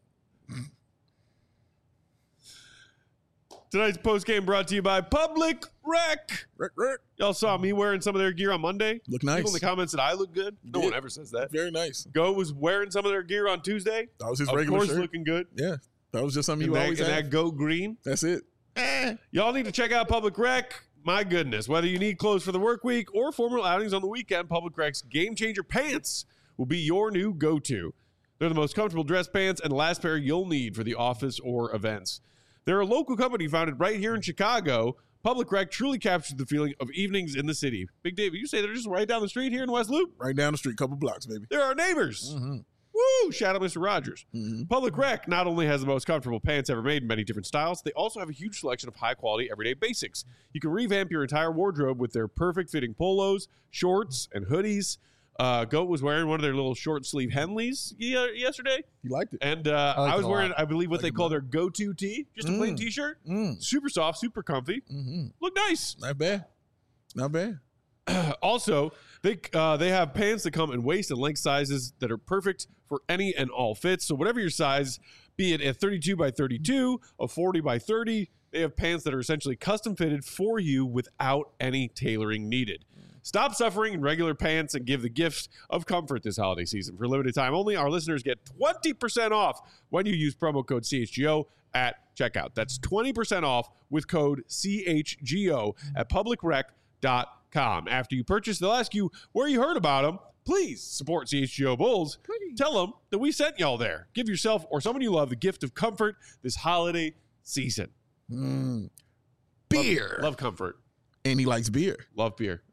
Tonight's postgame brought to you by Public Rec.
Rec, rec.
Y'all saw me wearing some of their gear on Monday.
Look nice.
People in the comments said I look good.
You
no
did.
one ever says that.
Very nice.
Go was wearing some of their gear on Tuesday.
That was his
of
regular
course,
shirt.
looking good.
Yeah, that was just something
And
you
that,
always
and
had.
that Go Green.
That's it.
Eh. Y'all need to check out Public Rec. My goodness, whether you need clothes for the work week or formal outings on the weekend, Public Rec's Game Changer Pants will be your new go-to. They're the most comfortable dress pants and the last pair you'll need for the office or events. They're a local company founded right here in Chicago. Public Rec truly captures the feeling of evenings in the city. Big Dave, you say they're just right down the street here in West Loop?
Right down the street, couple blocks, baby.
They're our neighbors.
Mm-hmm.
Woo! Shout out Mister Rogers.
Mm-hmm.
Public Rec not only has the most comfortable pants ever made in many different styles, they also have a huge selection of high-quality everyday basics. You can revamp your entire wardrobe with their perfect-fitting polos, shorts, and hoodies. Uh, Goat was wearing one of their little short-sleeve Henleys ye- yesterday.
You liked it.
And uh,
I, like
I was
it a
wearing,
lot.
I believe, what
Like
they
it
call
a
their go-to tee. Just a plain
Mm.
T-shirt.
Mm.
Super soft, super comfy.
Mm-hmm.
Look nice.
Not bad. Not bad.
Also, they uh, they have pants that come in waist and length sizes that are perfect for any and all fits. So whatever your size, be it a thirty-two by thirty-two, a forty by thirty, they have pants that are essentially custom fitted for you without any tailoring needed. Stop suffering in regular pants and give the gift of comfort this holiday season. For a limited time only, our listeners get twenty percent off when you use promo code C H G O at checkout. That's twenty percent off with code C H G O at public rec dot com. After you purchase, they'll ask you where you heard about them. Please support C H G O Bulls. Please. Tell them that we sent y'all there. Give yourself or someone you love the gift of comfort this holiday season.
Mm. Beer.
Love, love comfort.
And he likes beer.
Love beer.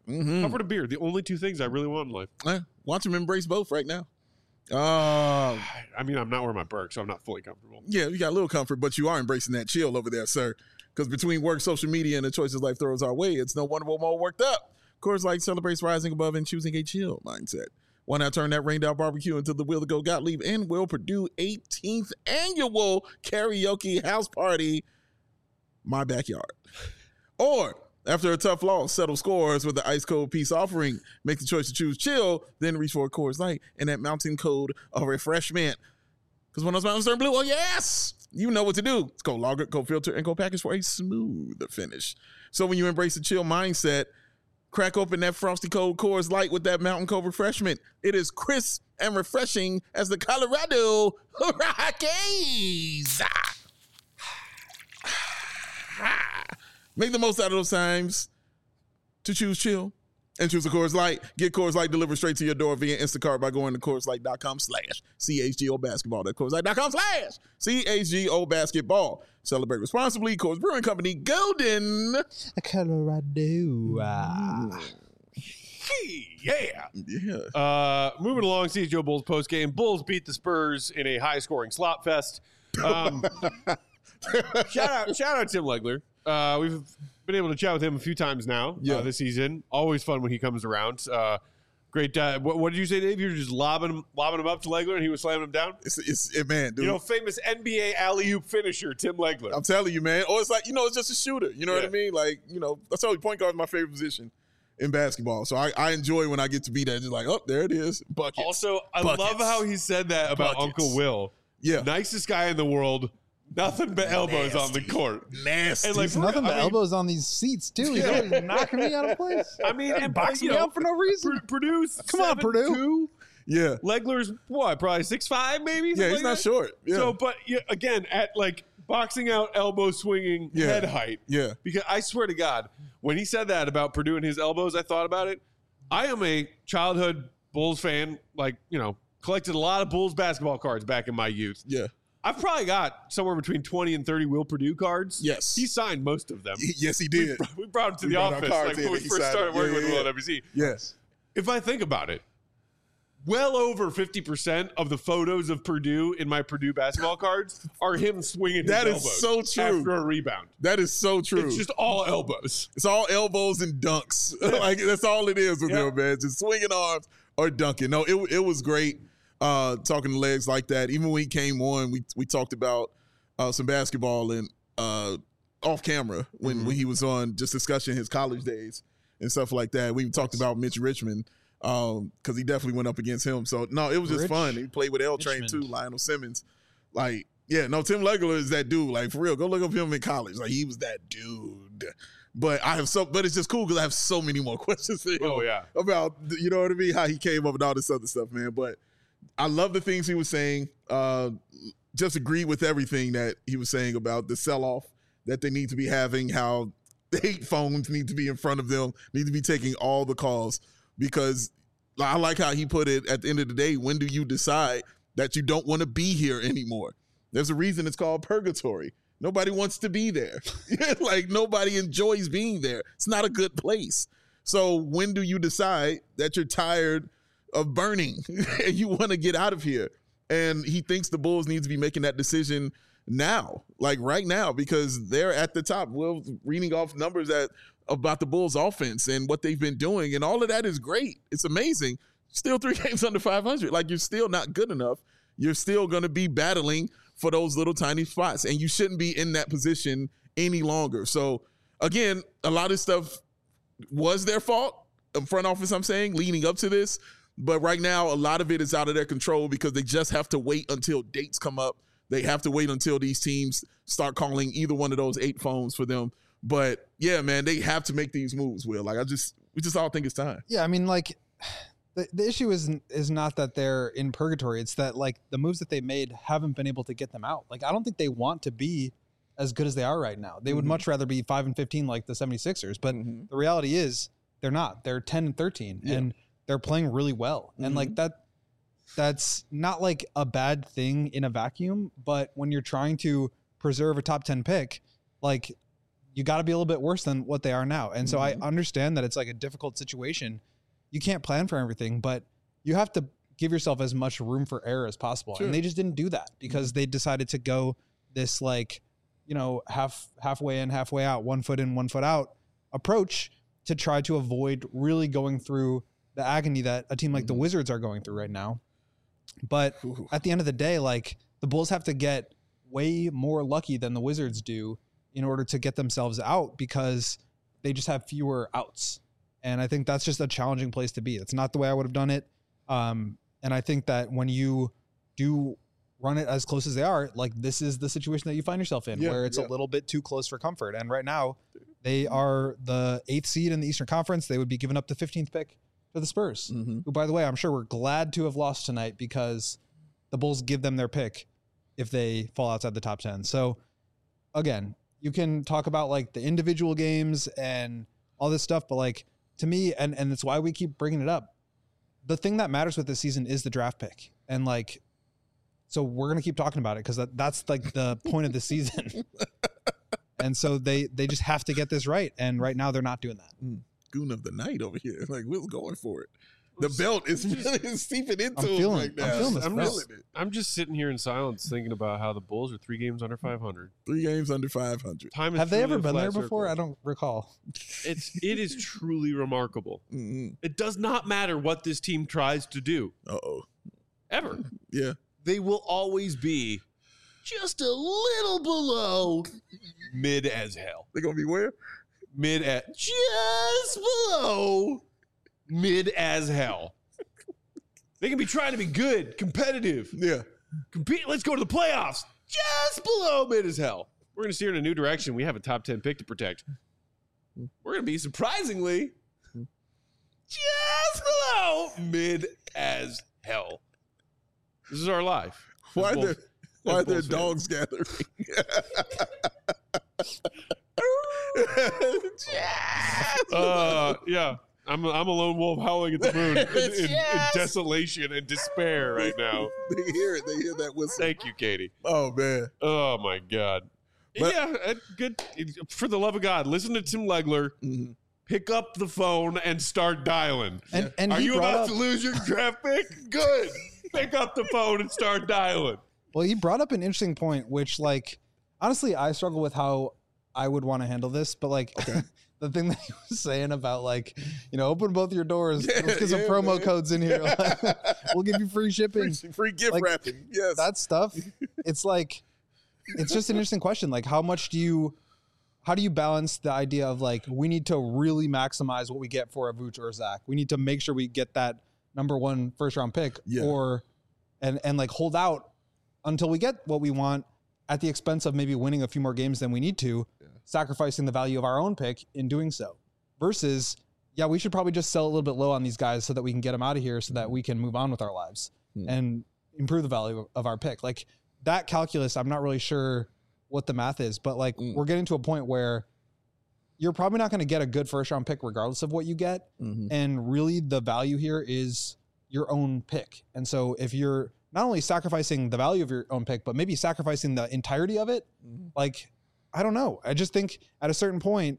Mm-hmm.
Comfort and beer, the only two things I really want in life.
Eh, watch him embrace both right now. Uh,
I mean, I'm not wearing my Burke, so I'm not fully comfortable.
yeah, you got a little comfort, but you are embracing that chill over there, sir. Because between work, social media, and the choices life throws our way, it's no wonder we're more worked up. Coors Light celebrates rising above and choosing a chill mindset. Why not turn that rained out barbecue into the Will to Go Gottlieb and Will Purdue eighteenth annual karaoke house party, my backyard? Or after a tough loss, settle scores with the ice cold peace offering. Make the choice to choose chill, then reach for a Coors Light and that mountain code of refreshment. Because when those mountains turn blue, oh yes, you know what to do. It's cold lager, cold filter, and cold package for a smoother finish. So when you embrace the chill mindset, crack open that frosty cold Coors Light with that mountain cold refreshment. It is crisp and refreshing as the Colorado Rockies. Make the most out of those times to choose chill and choose a Coors Light. Get Coors Light delivered straight to your door via Instacart by going to CoorsLight.com slash CHGO basketball. That's CoorsLight.com slash CHGO basketball. Celebrate responsibly. Coors Brewing Company, Golden,
Colorado. Uh,
Yeah.
yeah.
Uh, moving along, C H G O Bulls postgame. Bulls beat the Spurs in a high-scoring slop fest. Um, shout out, shout out Tim Legler. Uh, we've been able to chat with him a few times now
Yeah.
uh, this season. Always fun when he comes around. Uh, great. Uh, what, what did you say, Dave? You were just lobbing him, lobbing him up to Legler, and he was slamming him down.
It's, it's it, man, dude.
You know, famous N B A alley-oop finisher, Tim Legler.
I'm telling you, man. Or it's like, you know, it's just a shooter. You know what
Yeah.
I mean? Like, you know, that's always point guard is my favorite position in basketball. So I, I enjoy when I get to be that. Just like, oh, there it is. Buckets.
Also, I
Buckets.
love how he said that about
Buckets.
Uncle Will.
Yeah.
Nicest guy in the world. Nothing but elbows on the court.
Nasty.
And like,
There's nothing
I
but
mean-
elbows on these seats, too. He's always knocking me out of place.
I mean, and
Boxing
you
me
know,
out for no reason.
Pur- Purdue's
Come on, Purdue.
Two.
yeah.
Legler's what? Probably six five, maybe.
Yeah,
Something
he's
like
not
that?
short. Yeah.
So, but yeah, again, at like boxing out, elbow swinging,
Yeah.
head height.
yeah.
Because I swear to God, when he said that about Purdue and his elbows, I thought about it. I am a childhood Bulls fan. Like, you know, collected a lot of Bulls basketball cards back in my youth.
Yeah.
I've probably got somewhere between twenty and thirty Will Purdue cards.
Yes.
He signed most of them.
He- yes, he
We,
did.
br- we brought him to
We
the
brought our
office
cards
like
in
when we
and he
first
signed
started
it.
working
Yeah,
with
yeah,
Will
yeah.
at W C.
Yes.
If I think about it, well over fifty percent of the photos of Purdue in my Purdue basketball cards are him swinging
That
his
is
elbows
so true.
after a rebound.
That is so true.
It's just all elbows.
It's all elbows and dunks. like that's all it is with
Yeah.
him, man. Just swinging arms or dunking. No, it it was great uh, talking to legs like that. Even when he came on, we we talked about uh, some basketball and uh, off camera when,
Mm-hmm.
when he was on, just discussing his college days and stuff like that. We even talked about Mitch Richmond because um, he definitely went up against him. So no, it was just
Rich
fun. He played with L Train too,
Richmond.
Lionel Simmons. Like, yeah, no, Tim Legler is that dude. Like for real, go look up him in college. Like he was that dude. But I have so, but it's just cool because I have so many more questions for him
Oh, yeah.
about, you know what I mean, how he came up and all this other stuff, man. But I love the things he was saying. Uh, just agree with everything that he was saying about the sell-off that they need to be having, how the hate phones need to be in front of them, need to be taking all the calls. Because I like how he put it, at the end of the day, when do you decide that you don't want to be here anymore? There's a reason it's called purgatory. Nobody wants to be there. Like nobody enjoys being there. It's not a good place. So when do you decide that you're tired of burning and you want to get out of here? And he thinks the Bulls need to be making that decision now, like right now, because they're at the top. We're reading off numbers that about the Bulls offense and what they've been doing. And all of that is great. It's amazing. Still three games under five hundred. Like you're still not good enough. You're still going to be battling for those little tiny spots, and you shouldn't be in that position any longer. So again, a lot of stuff was their fault, front office, I'm saying, leading up to this. But right now, a lot of it is out of their control because they just have to wait until dates come up. They have to wait until these teams start calling either one of those eight phones for them. But yeah, man, they have to make these moves, Will. Like I just, we just all think it's time.
Yeah, I mean, like the, the issue is is not that they're in purgatory. It's that like the moves that they made haven't been able to get them out. Like I don't think they want to be as good as they are right now. They would
Mhm.
much rather be five and fifteen like the 76ers. But
Mhm.
the reality is they're not. They're ten and thirteen,
Yeah.
and they're playing really well. And like that, that's not like a bad thing in a vacuum. But when you're trying to preserve a top ten pick, like you got to be a little bit worse than what they are now. And so
Mhm.
I understand that it's like a difficult situation. You can't plan for everything, but you have to give yourself as much room for error as possible.
Sure.
And they just didn't do that because they decided to go this like, you know, half halfway in, halfway out, one foot in, one foot out approach to try to avoid really going through the agony that a team like the
Mhm.
Wizards are going through right now. But
Ooh.
at the end of the day, like the Bulls have to get way more lucky than the Wizards do in order to get themselves out because they just have fewer outs. And I think that's just a challenging place to be. It's not the way I would have done it. Um, and I think that when you do run it as close as they are, like this is the situation that you find yourself in
Yeah,
where it's
yeah.
a little bit too close for comfort. And right now they are the eighth seed in the Eastern Conference. They would be giving up the fifteenth pick to the Spurs,
Mhm.
who, by the way, I'm sure we're glad to have lost tonight because the Bulls give them their pick if they fall outside the top ten. So again, you can talk about like the individual games and all this stuff, but like to me, and, and it's why we keep bringing it up. The thing that matters with this season is the draft pick. And like, so we're going to keep talking about it because that, that's like the point of the season. And so they, they just have to get this right. And right now they're not doing that.
Goon of the night over here. Like, Will's going for it. The belt is really seeping into
I'm
him
feeling-
right
I'm
now.
feeling this,
I'm
bro.
just, I'm just sitting here in silence thinking about how the Bulls are three games under five hundred.
Three games under five hundred.
Time is
Have they
truly
ever
a
been
flat
there before?
circle.
I don't recall.
It's it is truly remarkable.
Mm-hmm.
It does not matter what this team tries to do
Uh-oh.
ever.
Yeah.
They will always be just a little below mid as hell.
They're going to be where?
Mid at just below mid as hell. They can be trying to be good, competitive,
Yeah.
compete. Let's go to the playoffs. Just below mid as hell. We're going to steer in a new direction. We have a top ten pick to protect. We're going to be surprisingly just below mid as hell. This is our life.
Why are
Bulls-
there, why are there
Bulls
dogs gathering?
Uh, yeah. I'm a, I'm a lone wolf howling at the moon in, in, in
Yes.
desolation and despair right now.
They hear it. They hear that whistle.
Thank you, Katie.
Oh, man.
Oh my God.
But-
yeah, uh, good. For the love of God, listen to Tim Legler.
Mhm.
Pick up the phone and start dialing.
And, and
Are
he
you
brought
about
up,
to lose your draft pick? Good. Pick up the phone and start dialing.
well, he brought up an interesting point, which like, honestly, I struggle with how I would want to handle this, but like the thing that he was saying about like, you know, open both your doors.
Yeah,
Let's get some
yeah,
promo
man.
codes in here. We'll give you free shipping.
Free, free gift
Like,
wrapping. Yes.
That stuff. It's like, it's just an interesting question. Like, how much do you, how do you balance the idea of like, we need to really maximize what we get for a Vooch or a Zach? We need to make sure we get that number one first round pick,
Yeah.
or, and, and like hold out until we get what we want at the expense of maybe winning a few more games than we need to, sacrificing the value of our own pick in doing so. Versus, yeah, we should probably just sell a little bit low on these guys so that we can get them out of here so that we can move on with our lives
Hmm.
and improve the value of our pick. Like that calculus, I'm not really sure what the math is, but like
Mm.
we're getting to a point where you're probably not going to get a good first round pick regardless of what you get.
Mhm.
And really the value here is your own pick. And so if you're not only sacrificing the value of your own pick, but maybe sacrificing the entirety of it,
Mhm.
like, I don't know. I just think at a certain point,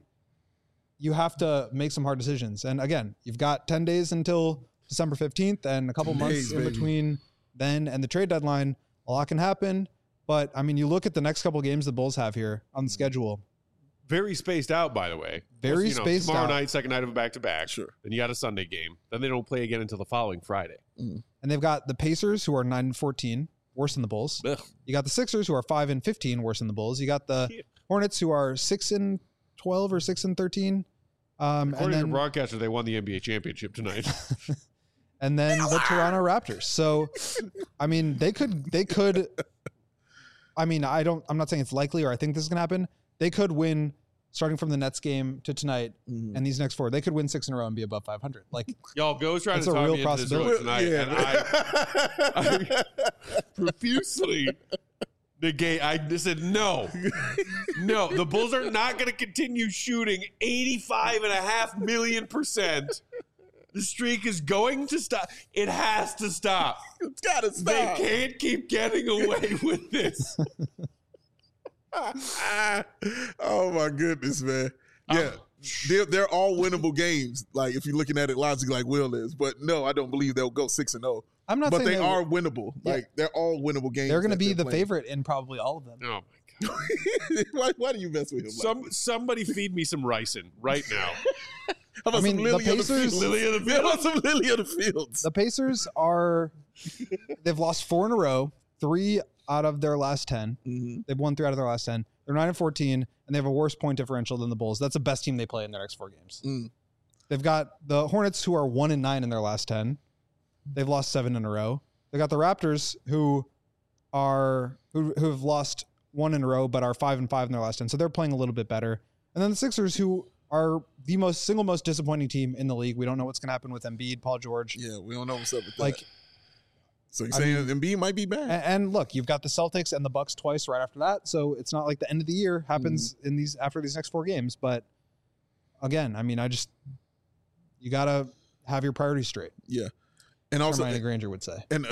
you have to make some hard decisions. And again, you've got ten days until December fifteenth and a couple
ten
months
days,
in
baby.
between then and the trade deadline. A lot can happen. But I mean, you look at the next couple games the Bulls have here on the schedule.
Very spaced out, by the way.
Very
You know,
spaced
tomorrow
out.
night, second night of a back-to-back.
Sure.
Then you got a Sunday game. Then they don't play again until the following Friday.
And they've got the Pacers, who are nine and fourteen, worse than the Bulls.
Ugh.
You got the Sixers, who are five and fifteen, worse than the Bulls. You got the
Yeah.
Hornets, who are six and twelve or six and thirteen. Um, and
According to
then
broadcaster, they won the N B A championship tonight.
and then the Toronto Raptors. So, I mean, they could they could. I mean, I don't. I'm not saying it's likely, or I think this is gonna happen. They could win, starting from the Nets game to tonight,
Mhm.
and these next four. They could win six in a row and be above five hundred. Like,
Y'all, Go's trying
It's
to
a
talk
real
me into this
possibility.
early tonight,
Yeah.
and I, I profusely negate. I just said no, no. The Bulls are not going to continue shooting eighty-five and a half million percent. The streak is going to stop. It has to stop.
It's got to
They
stop.
can't keep getting away with this.
Oh my goodness, man. Yeah. They're, they're all winnable games. Like if you're looking at it logically, like Will is, but no, I don't believe they'll go six and zero.
I'm not
But
saying
they
they
are winnable.
Yeah.
Like they're all winnable games.
They're going to
that
be
they're
the
playing.
favorite in probably all of them.
Oh my god!
why, why do you mess with him?
Some
like
somebody feed me some ricin right now.
How about
I mean,
some
the
Lily of the
Pacers-
Fields?
Lily of the
How about some Lily of the Fields?
The Pacers are they've lost four in a row, three out of their last ten.
Mhm.
They've won three out of their last ten. They're nine and fourteen, and they have a worse point differential than the Bulls. That's the best team they play in their next four games.
Mm.
They've got the Hornets, who are one and nine in their last ten. They've lost seven in a row. They got the Raptors, who are who who have lost one in a row, but are five and five in their last ten. So they're playing a little bit better. And then the Sixers, who are the most single most disappointing team in the league. We don't know what's going to happen with Embiid, Paul George.
Yeah, we don't know what's up with that.
Like,
so you're
I
saying
mean-
Embiid might be back?
and, and look, you've got the Celtics and the Bucks twice right after that. So it's not like the end of the year happens in these after these next four games. But again, I mean, I just you got to have your priorities straight.
Yeah, and also
Hermione Granger would say.
and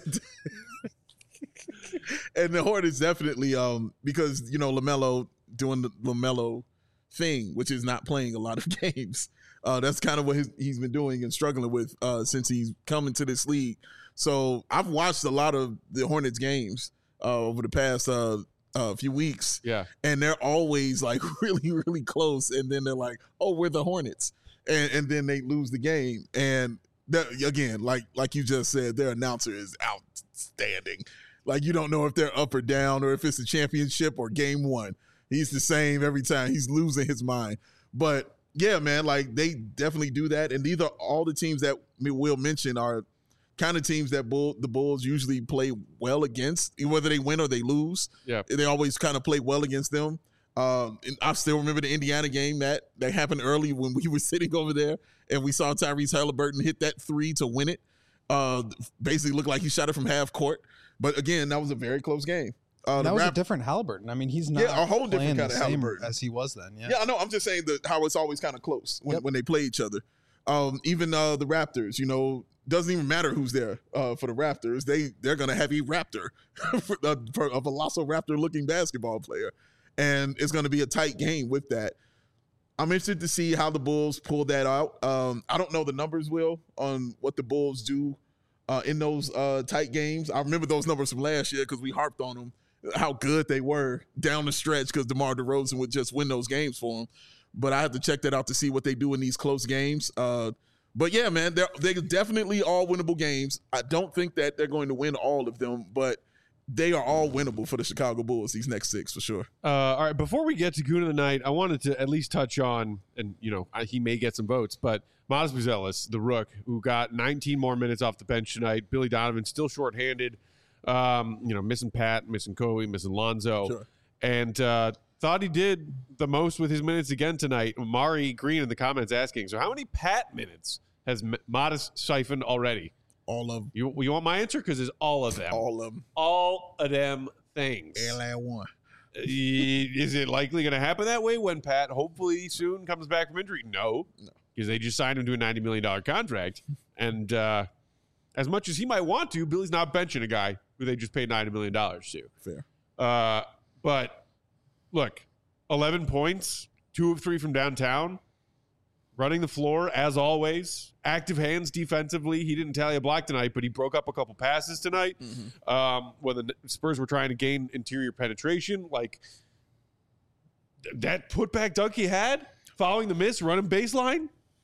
and the Hornets definitely um because you know LaMelo doing the LaMelo thing, which is not playing a lot of games. Uh, that's kind of what his, he's been doing and struggling with uh, since he's come into this league. So I've watched a lot of the Hornets games uh, over the past uh, uh, few weeks,
Yeah.
and they're always like really, really close. And then they're like, "Oh, we're the Hornets," and and then they lose the game. And that, again, like like you just said, their announcer is outstanding. Like you don't know if they're up or down, or if it's a championship or game one. He's the same every time. He's losing his mind. But yeah, man, like they definitely do that. And these are all the teams that Will mention are kind of teams that Bull, the Bulls usually play well against, whether they win or they lose.
Yeah.
They always kind of play well against them. Um, and I still remember the Indiana game that that happened early when we were sitting over there and we saw Tyrese Halliburton hit that three to win it. Uh, basically looked like he shot it from half court. But again, that was a very close game. Uh,
And
the
that was a
Rap-
different Halliburton. I mean, he's not
Yeah, a whole different
playing
kind
the
of
same
Halliburton.
as he was then. Yeah.
Yeah, I know. I'm just saying that how it's always kind of close when,
Yep.
when they play each other. Um, even uh, the Raptors, you know, doesn't even matter who's there uh, for the Raptors. They they're gonna have a Raptor, for, uh, for a Velociraptor looking basketball player, and it's gonna be a tight game with that. I'm interested to see how the Bulls pull that out. Um, I don't know the numbers, Will, on what the Bulls do uh, in those uh, tight games. I remember those numbers from last year because we harped on them, how good they were down the stretch because DeMar DeRozan would just win those games for them. But I have to check that out to see what they do in these close games. Uh, but yeah, man, they're, they're definitely all winnable games. I don't think that they're going to win all of them, but they are all winnable for the Chicago Bulls, these next six for sure.
Uh, all right, before we get to Goon of the Night, I wanted to at least touch on, and you know, I- he may get some votes, but Miles Buzelis, the Rook, who got nineteen more minutes off the bench tonight. Billy Donovan still shorthanded, um, you know, missing Pat, missing Kobe, missing Lonzo,
Sure.
and uh, thought he did the most with his minutes again tonight. Mari Green in the comments asking, so how many Pat minutes has M- Modest siphoned already?
All of them.
You, you want my answer? Because it's all of them.
All of them.
All of them things.
L A one.
Is it likely going to happen that way when Pat hopefully soon comes back from injury? No,
No.
because they just signed him to a ninety million dollars contract. And uh, as much as he might want to, Billy's not benching a guy who they just paid ninety million dollars to.
Fair.
Uh, but look, eleven points, two of three from downtown, running the floor as always, active hands defensively. He didn't tally a block tonight, but he broke up a couple passes tonight.
Mm-hmm.
Um, when the Spurs were trying to gain interior penetration, like th- that putback dunk he had following the miss, running baseline.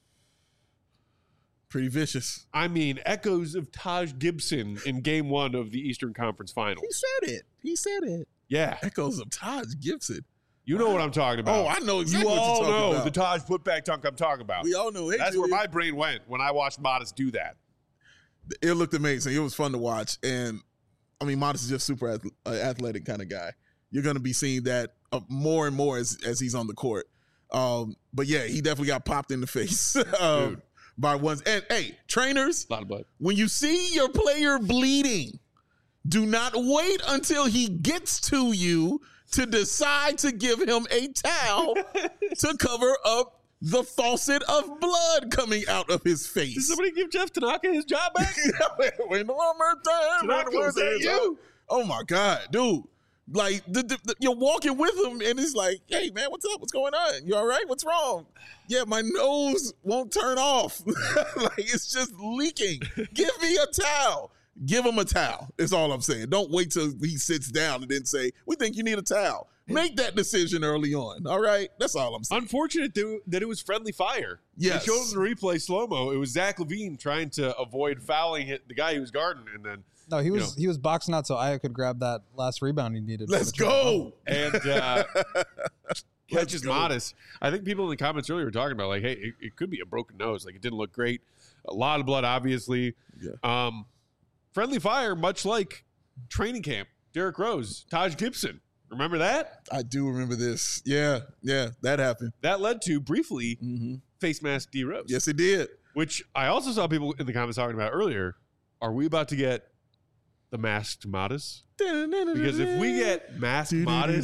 Pretty vicious.
I mean, echoes of Taj Gibson in game one of the Eastern Conference Finals.
He said it. He said it.
Yeah,
Echoes of Taj Gibson.
you know what I'm talking about.
Oh, I know exactly
you
what
all
you're talking
know
about.
the Taj putback dunk I'm talking about.
We all know. Hey,
That's where
Julian.
my brain went when I watched Modest do that.
It looked amazing. It was fun to watch. And I mean, Modest is just super ath- uh, athletic kind of guy. You're going to be seeing that uh, more and more as, as he's on the court. Um, but yeah, he definitely got popped in the face um,
Dude.
by ones. And hey, trainers,
A lot of blood.
when you see your player bleeding, do not wait until he gets to you to decide to give him a towel to cover up the faucet of blood coming out of his face.
Did somebody give Jeff Tanaka his job back?
When the one more time,
Tanaka, was that you?
Oh my God, dude. Like the, the, the- you're walking with him, and it's like, "Hey, man, what's up? What's going on? You all right? What's wrong?" Yeah, my nose won't turn off. Like it's just leaking. Give me a towel. Give him a towel. Is all I'm saying. Don't wait till he sits down and then say, "We think you need a towel." Make that decision early on. All right, that's all I'm saying.
Unfortunate that that it was friendly fire.
Yes.
They showed in the replay slow mo. It was Zach LaVine trying to avoid fouling hit the guy he was guarding, and then
No, he
You
was he was boxing out so Aya could grab that last rebound he needed. for
Let's
the triple.
go.
and uh, catches
go.
modest. I think people in the comments earlier were talking about like, hey, it, it could be a broken nose. Like it didn't look great. A lot of blood, obviously.
Yeah.
Um, friendly fire, much like training camp. Derrick Rose, Taj Gibson. Remember that?
I do remember this. Yeah, yeah, that happened.
That led to briefly
Mm-hmm.
face mask D Rose.
Yes, it did.
Which I also saw people in the comments talking about earlier. Are we about to get the masked Modest? Because if we get masked Modest,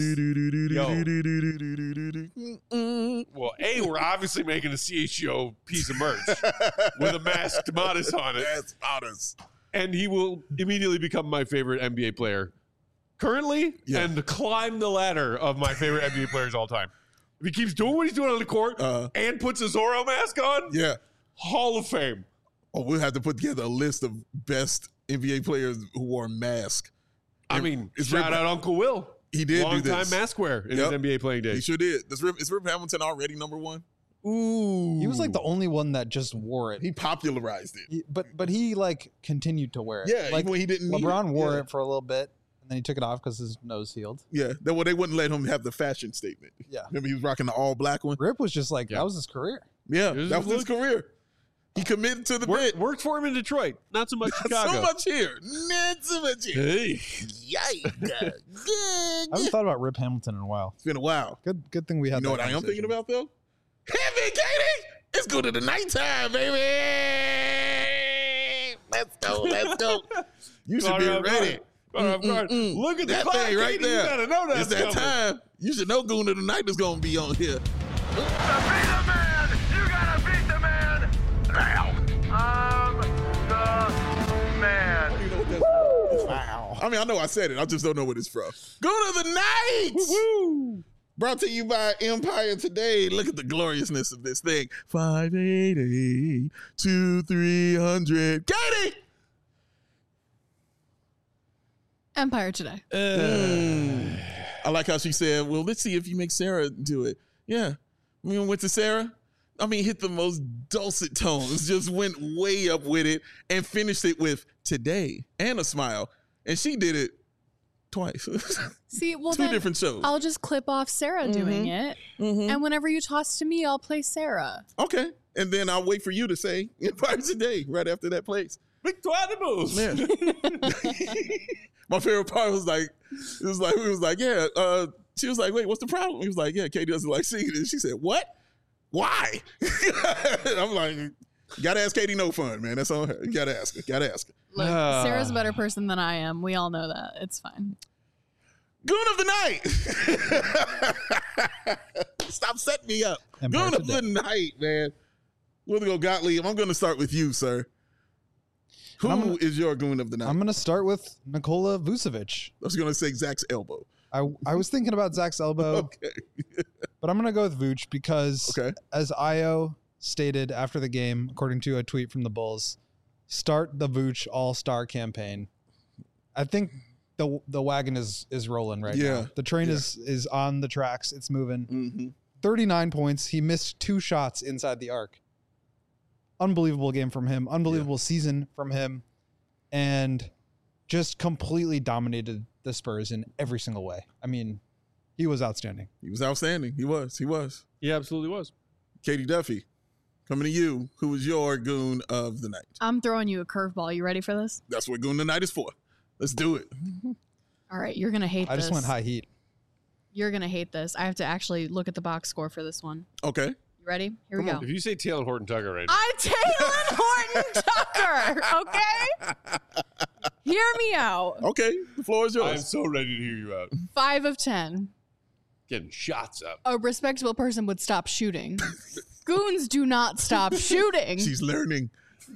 well, A, we're obviously making a C H G O piece of merch with a masked Modest on it.
That's honest.
And he will immediately become my favorite N B A player currently
Yeah.
and climb the ladder of my favorite N B A players all time. If he keeps doing what he's doing on the court
Uh,
and puts a Zorro mask on,
Yeah.
Hall of Fame.
Oh, we'll have to put together a list of best N B A players who wore masks.
I
And
mean,
it's
shout
Rip-
out Uncle Will.
He did
Long
do
time
this.
mask wear in
Yep.
his N B A playing
He
days.
sure did. Does Rip, is Rip Hamilton already number one?
Ooh.
He was like the only one that just wore it.
He popularized it.
He- but but he like continued to wear it.
Yeah,
like
even when he didn't need
LeBron
it.
wore
yeah.
it for a little bit and then he took it off because his nose healed.
Yeah, that well, they wouldn't let him have the fashion statement.
Yeah.
Remember, he was rocking the all black one.
Rip was just like
Yeah.
that was his career.
Yeah,
It was
that was
his
his career. He committed to the
Work,
bit.
worked for him in Detroit. Not so much Chicago.
So much here, not so much here.
Hey.
Yikes!
I haven't thought about Rip Hamilton in a while.
It's been a while.
Good good thing we had.
You know
that
what I am thinking
conversation.
about though? Heavy, Katie! It's good to the nighttime, baby. Let's go, let's go. You should
Caught
be
her off
ready.
guard. Caught her off guard.
Mm, mm,
Look at the
that
clock,
thing right
Katie.
there.
You gotta know that's
It's that
coming.
time. You should know Goon of the Night is gonna be on here.
Beat the man! You gotta beat the man! Now! I'm the man.
You know what that's from? Wow. I mean, I know I said it. I just don't know what it's from. Goon of the Night!
Woo!
Brought to you by Empire Today. Look at the gloriousness of this thing. five eight eight, two three hundred. Katie!
Empire Today.
Mm. I like how she said, well, let's see if you make Sarah do it. Yeah. We went to Sarah. I mean, hit the most dulcet tones, just went way up with it and finished it with today and a smile. And she did it twice.
See, well,
Two
then
different shows.
I'll just clip off Sarah doing it,
Mhm.
and whenever you toss to me, I'll play Sarah.
Okay. And then I'll wait for you to say Empire Today right after that plays.
Victoire de Moose.
Man. My favorite part was like, it was like, we was like, yeah, uh, she was like, wait, what's the problem? He was like, yeah, Katie doesn't like singing. And she said, what? Why? And I'm like, you gotta ask Katie No Fun, man. That's on her. You gotta ask her. Gotta ask her.
Look,
Ah.
Sarah's a better person than I am. We all know that. It's fine.
Goon of the Night. Stop setting me up.
Empire
Goon of
Today.
the Night, man. We're gonna go Gottlieb. I'm gonna start with you, sir. Who
I'm gonna-
is your Goon of the Night?
I'm gonna start with Nikola Vucevic.
I was gonna say Zach's elbow.
I I was thinking about Zach's elbow,
Okay.
but I'm gonna go with Vooch because
Okay.
as Io stated after the game, according to a tweet from the Bulls, start the Vooch All Star campaign. I think the the wagon is is rolling right
Yeah.
now. The train
Yeah.
is is on the tracks. It's moving.
Mm-hmm.
thirty-nine points. He missed two shots inside the arc. Unbelievable game from him. Unbelievable season from him, and just completely dominated the Spurs in every single way. I mean, he was outstanding.
He was outstanding. He was. He was.
He absolutely was.
Katie Duffy, coming to you. Who was your Goon of the Night?
I'm throwing you a curveball. You ready for this?
That's what Goon of the Night is for. Let's do it.
All right, you're gonna hate
I
this.
just went high heat.
You're gonna hate this. I have to actually look at the box score for this one.
Okay.
You ready? Here we
Come
go.
If you say Taylor Horton Tucker right now,
I'm Taylor Horton Tucker. Okay. Hear me out.
Okay. The floor is
I'm
yours.
so ready to hear you out.
Five of ten.
Getting shots up.
A respectable person would stop shooting. Goons do not stop shooting.
She's learning.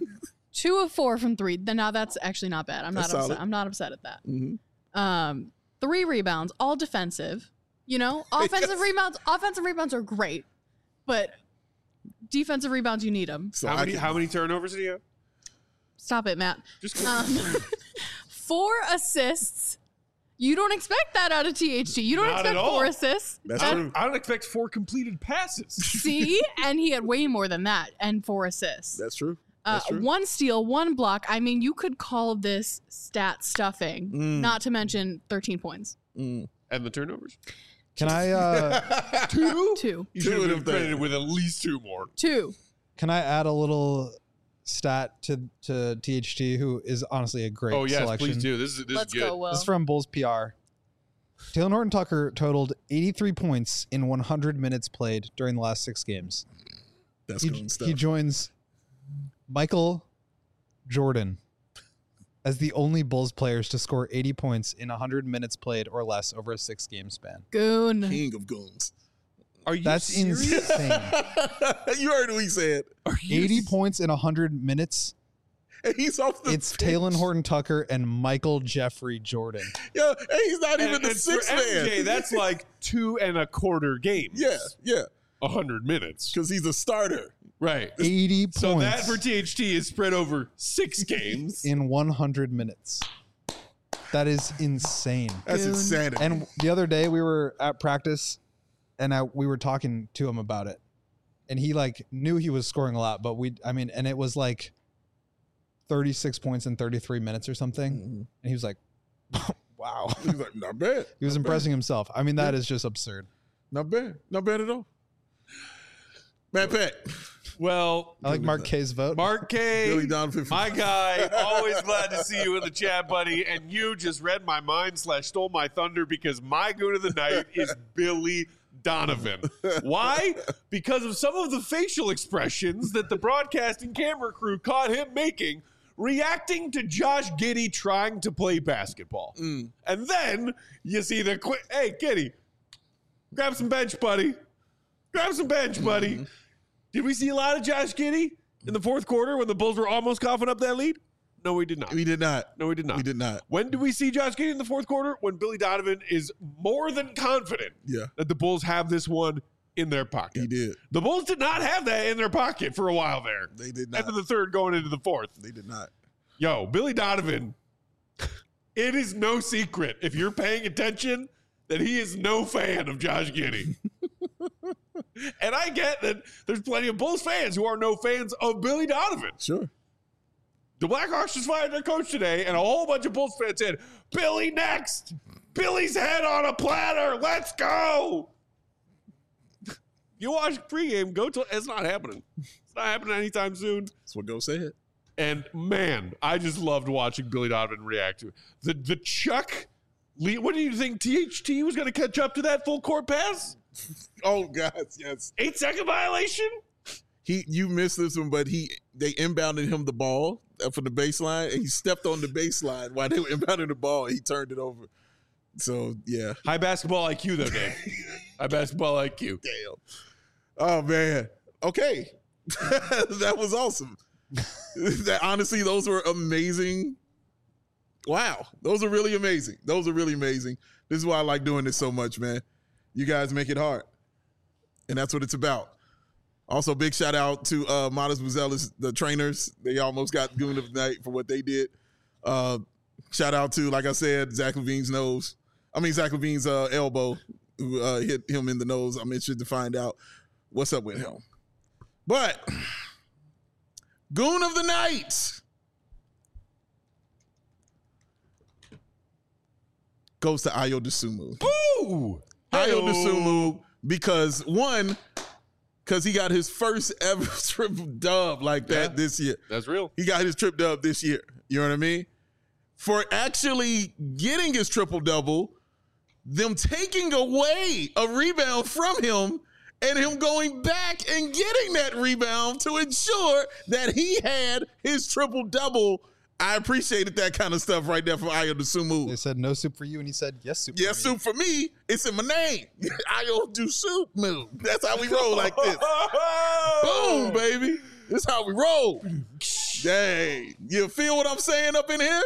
Two of four from three. Then now that's actually not bad. I'm not
That's
upset.
solid.
I'm not upset at that.
Mhm.
Um, three rebounds, all defensive. You know, offensive
Yes.
rebounds, offensive rebounds are great, but defensive rebounds, you need them.
So
How
I
many
can-
how many turnovers did he have?
Stop it, Matt.
Just
Um, four assists. You don't expect that out of T H T. You don't
Not
expect
at all.
four assists.
That's
I
That's-
true.
don't, I don't expect four completed passes.
See, and he had way more than that, and four assists.
That's true.
Uh,
That's true.
one steal, one block. I mean, you could call this stat stuffing.
Mm.
Not to mention thirteen points.
Mm.
And the turnovers?
Can I uh,
Two?
Two,
You
Two
should have
of
been
them
credited
things.
with at least two more.
two.
can I add a little stat to to T H T, who is honestly a great
Oh yes,
selection?
please do. This is this
Let's
is good.
go, Will.
This is from Bulls P R. Taylor Horton Tucker totaled eighty-three points in one hundred minutes played during the last six games.
That's
He,
good stuff.
he joins Michael Jordan as the only Bulls players to score eighty points in one hundred minutes played or less over a six game span.
Goon.
King of goons.
Are you
That's
serious?
insane.
You heard what he said.
Are you
eighty
s-
points in one hundred minutes.
And he's off the
It's
bench.
Taylor Horton Tucker and Michael Jeffrey Jordan.
Yeah, and he's not even
And,
the
and for
sixth
M J,
man.
that's like two and a quarter games.
yeah, yeah,
A hundred minutes.
because he's a starter.
Right.
eighty
So
points
that for T H T is spread over six games.
in one hundred minutes. That is insane.
That's
Goon.
insanity.
And the other day we were at practice and I, we were talking to him about it. And he like knew he was scoring a lot, but we, I mean, and it was like thirty-six points in thirty-three minutes or something.
Mhm.
And he was like, wow.
He's like, not bad.
He was
Not bad.
impressing himself. I mean, that is just absurd.
Not bad. Not bad at all. Matt Peck.
Well,
I like Mark K's vote.
Mark K,
Billy Donovan.
my guy, always glad to see you in the chat, buddy. And you just read my mind slash stole my thunder because my goon of the night is Billy Donovan. Why? Because of some of the facial expressions that the broadcasting camera crew caught him making, reacting to Josh Giddey trying to play basketball.
Mm.
And then you see the quick, hey, Giddey, grab some bench, buddy. Grab some bench, buddy.
Mm-hmm.
Did we see a lot of Josh Giddey in the fourth quarter when the Bulls were almost coughing up that lead? No, we did not.
We did not.
No, we did not.
We did not.
When do we see Josh Giddey in the fourth quarter? When Billy Donovan is more than confident
Yeah,
that the Bulls have this one in their pocket.
he did.
The Bulls did not have that in their pocket for a while there.
They did
End
not.
of the third going into the fourth.
They did not.
Yo, Billy Donovan, it is no secret if you're paying attention that he is no fan of Josh Giddey. And I get that there's plenty of Bulls fans who are no fans of Billy Donovan.
Sure.
The Blackhawks just fired their coach today, and a whole bunch of Bulls fans said, Billy next! Billy's head on a platter! Let's go! You watch pregame, go to it's not happening. It's not happening anytime soon.
That's what Go said.
And man, I just loved watching Billy Donovan react to it. The the Chuck Lee, what do you think T H T was going to catch up to that full court pass?
Oh, guys, yes.
Eight second violation?
He, you missed this one, but he, they inbounded him the ball uh, from the baseline, and he stepped on the baseline while they were inbounding the ball. And he turned it over. So yeah,
High basketball I Q though, Dave. High basketball I Q.
damn. Oh man. Okay, that was awesome. That honestly, those were amazing. Wow, those are really amazing. Those are really amazing. This is why I like doing this so much, man. You guys make it hard, and that's what it's about. Also, big shout out to uh, Modest Buzelis, the trainers. They almost got Goon of the Night for what they did. Uh, shout out to, like I said, Zach Levine's nose. I mean, Zach Levine's uh, elbow, who uh, hit him in the nose. I'm interested to find out what's up with him. But Goon of the Night goes to Ayo Dosunmu.
Ooh!
Ayo
Hey-o.
Dosunmu, because one, because he got his first ever triple dub like that
Yeah.
this year.
That's real.
He got his trip dub this year. You know what I mean? For actually getting his triple double, them taking away a rebound from him and him going back and getting that rebound to ensure that he had his triple double. I appreciated that kind of stuff right there from Ayo Dosunmu.
They said no soup for you, and he said yes soup.
Yes,
for me.
soup for me. It's in my name. Ayo Dosunmu. That's how we roll like this. Boom, baby. This is how we roll. Dang. You feel what I'm saying up in here?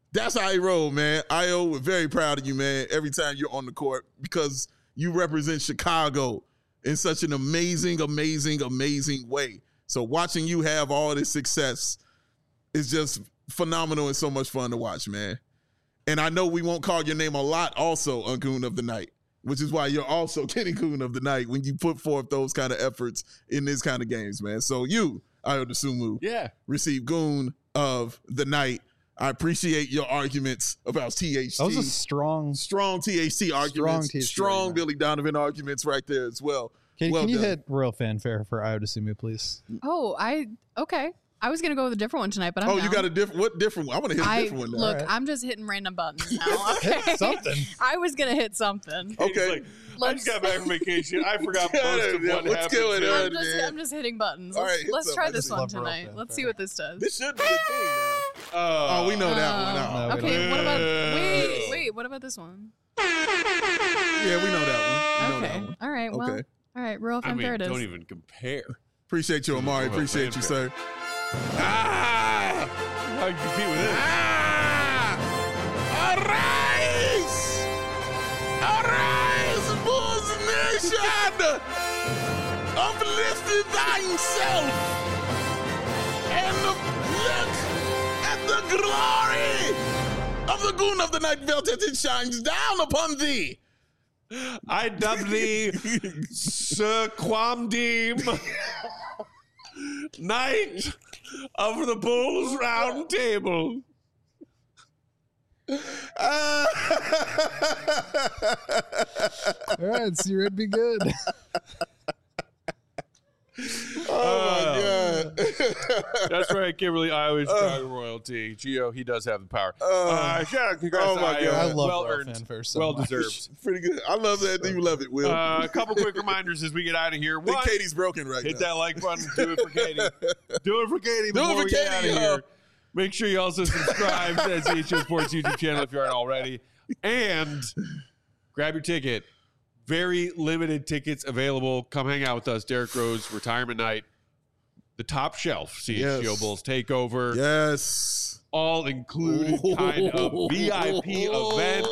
That's how I roll, man. I O, we're very proud of you, man, every time you're on the court because you represent Chicago in such an amazing, amazing, amazing way. So watching you have all this success is just phenomenal and so much fun to watch, man. And I know we won't call your name a lot also on Goon of the Night, which is why you're also getting Goon of the Night when you put forth those kind of efforts in this kind of games, man. So you, Ayo Dosunmu,
Yeah.
receive Goon of the Night. I appreciate your arguments about T H T.
That was a strong.
strong T H T arguments.
T H T
strong
argument.
Billy Donovan arguments right there as well.
Can,
well
can you
done.
hit royal fanfare for Ayo Dosunmu, please?
Oh, I okay. I was gonna go with a different one tonight, but I'm
Oh, you
down.
got a different, what different one? I want to hit a
I
different one now.
look.
Alright.
I'm just hitting random buttons now. Okay,
something.
I was gonna hit something.
Okay.
He's like, I just got back from vacation. I forgot most of
Yeah,
what
what's
happened.
going
here."
on?
I'm just,
man.
I'm just hitting buttons.
All
Let's,
right, hit
let's
something.
try
I
this
just
one
love royal
tonight.
fanfare.
Let's see what this does.
This should be a thing now.
Oh,
Oh, we know that
Uh,
one now.
No, we
okay,
don't.
what about
Uh,
wait, wait, what about this one?
Yeah, we know that one. We know that
Okay,
one.
all right, well,
Okay.
all right, royal
I mean,
fanfare it is.
don't even compare.
Appreciate you, Amari.
Royal
Appreciate you,
fanfare.
sir. Ah!
How can you compete with this?
Ah! Arise! Arise, Bulls Nation! Uplifted thyself and look at the glory of the Goon of the Night belt as it shines down upon thee.
I dub thee Sir Quamdeem, Knight of the Bulls Round Table.
All right, so you're be good.
Oh my God.
That's right, Kimberly, Iowa, Chicago royalty. Gio, he does have the power. Uh, shout out, congrats
oh
to
my
Io.
God.
I love
well
royal
earned,
fanfare so
well
much.
deserved.
Pretty good. I love that. You love it, Will.
Uh, a couple quick reminders as we get out of here.
I think
One,
Katie's broken right
hit
now.
that like button. Do it for Katie. Do it for Katie.
Do it
before
for
we get
Katie,
out of
yo.
here. Make sure you also subscribe to the C H O Sports YouTube channel if you aren't already. And grab your ticket. Very limited tickets available. Come hang out with us. Derrick Rose, retirement night. The top shelf C H G O
Yes.
Bulls takeover.
Yes.
All included kind of V I P event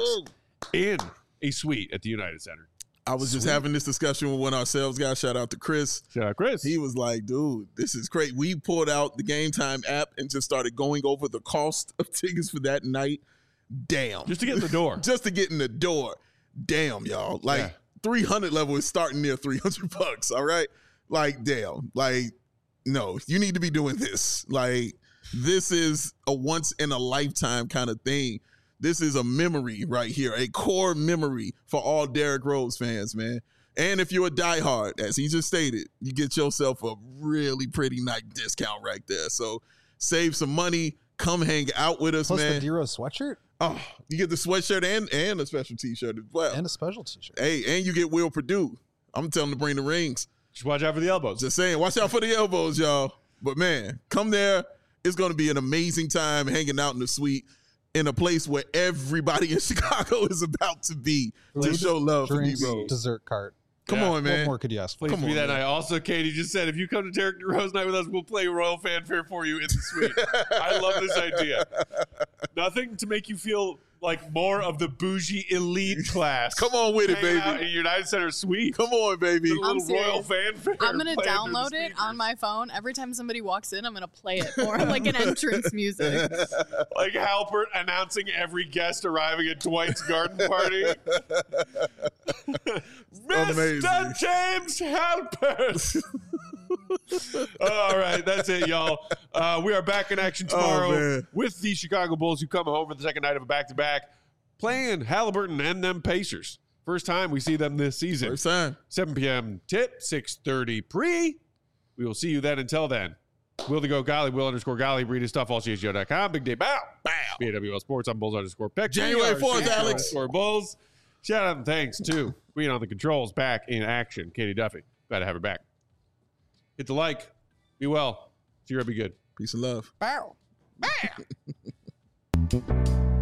in a suite at the United Center.
I was just having this discussion with one of our sales guys. Shout out to Chris.
Shout out, Chris.
He was like, dude, this is great. We pulled out the Game Time app and just started going over the cost of tickets for that night. Damn.
Just to get in the door.
Just to get in the door. Damn, y'all. Like
Yeah.
three hundred level is starting near three hundred bucks. All right. Like, damn. Like, no, you need to be doing this. Like, this is a once in a lifetime kind of thing. This is a memory right here, a core memory for all Derrick Rose fans, man. And if you're a diehard, as he just stated, you get yourself a really pretty night discount right there. So save some money. Come hang out with us,
Plus
man.
the D Rose sweatshirt
Oh, you get the sweatshirt and and a special T-shirt as well.
and a special t-shirt.
Hey, and you get Will Purdue. I'm telling him to bring the rings.
Just watch out for the elbows.
Just saying, watch out for the elbows, y'all. But man, come there. It's going to be an amazing time hanging out in the suite in a place where everybody in Chicago is about to be to
Food,
show love for
Drinks,
D-Rose.
dessert cart.
Come
Yeah.
on,
What
man.
more could you ask for?
Please
Come
be
on,
that
man.
night. Also, Katie just said, if you come to Derrick Rose night with us, we'll play Royal Fanfare for you in the suite. I love this idea. Nothing to make you feel like more of the bougie elite class.
Come on with it,
Hanging out
baby.
in United Center suite.
Come on, baby.
The little
serious.
Royal Fanfare.
I'm gonna
playing through the
download it
speakers.
on my phone. Every time somebody walks in, I'm gonna play it for like an entrance music.
Like Halpert announcing every guest arriving at Dwight's garden party.
Amazing.
Mister James Halpert. All right, that's it, y'all. Uh, we are back in action tomorrow
man.
with the Chicago Bulls, who come home for the second night of a back-to-back, playing Halliburton and them Pacers. First time we see them this season.
First time.
seven p.m. tip, six thirty pre. We will see you then. Until then, Will the Go Golly, Will underscore Golly, read his stuff, all C H G O dot com. Big day bow. Bow. B A W L Sports on Bulls underscore Peck.
January fourth,
C H G O
Alex.
Underscore Bulls. Shout out and thanks to Queen on the Controls, back in action. Katie Duffy. Glad to have her back. Hit the like. Be well. See you. Be good.
Peace and love.
Bow. Bow.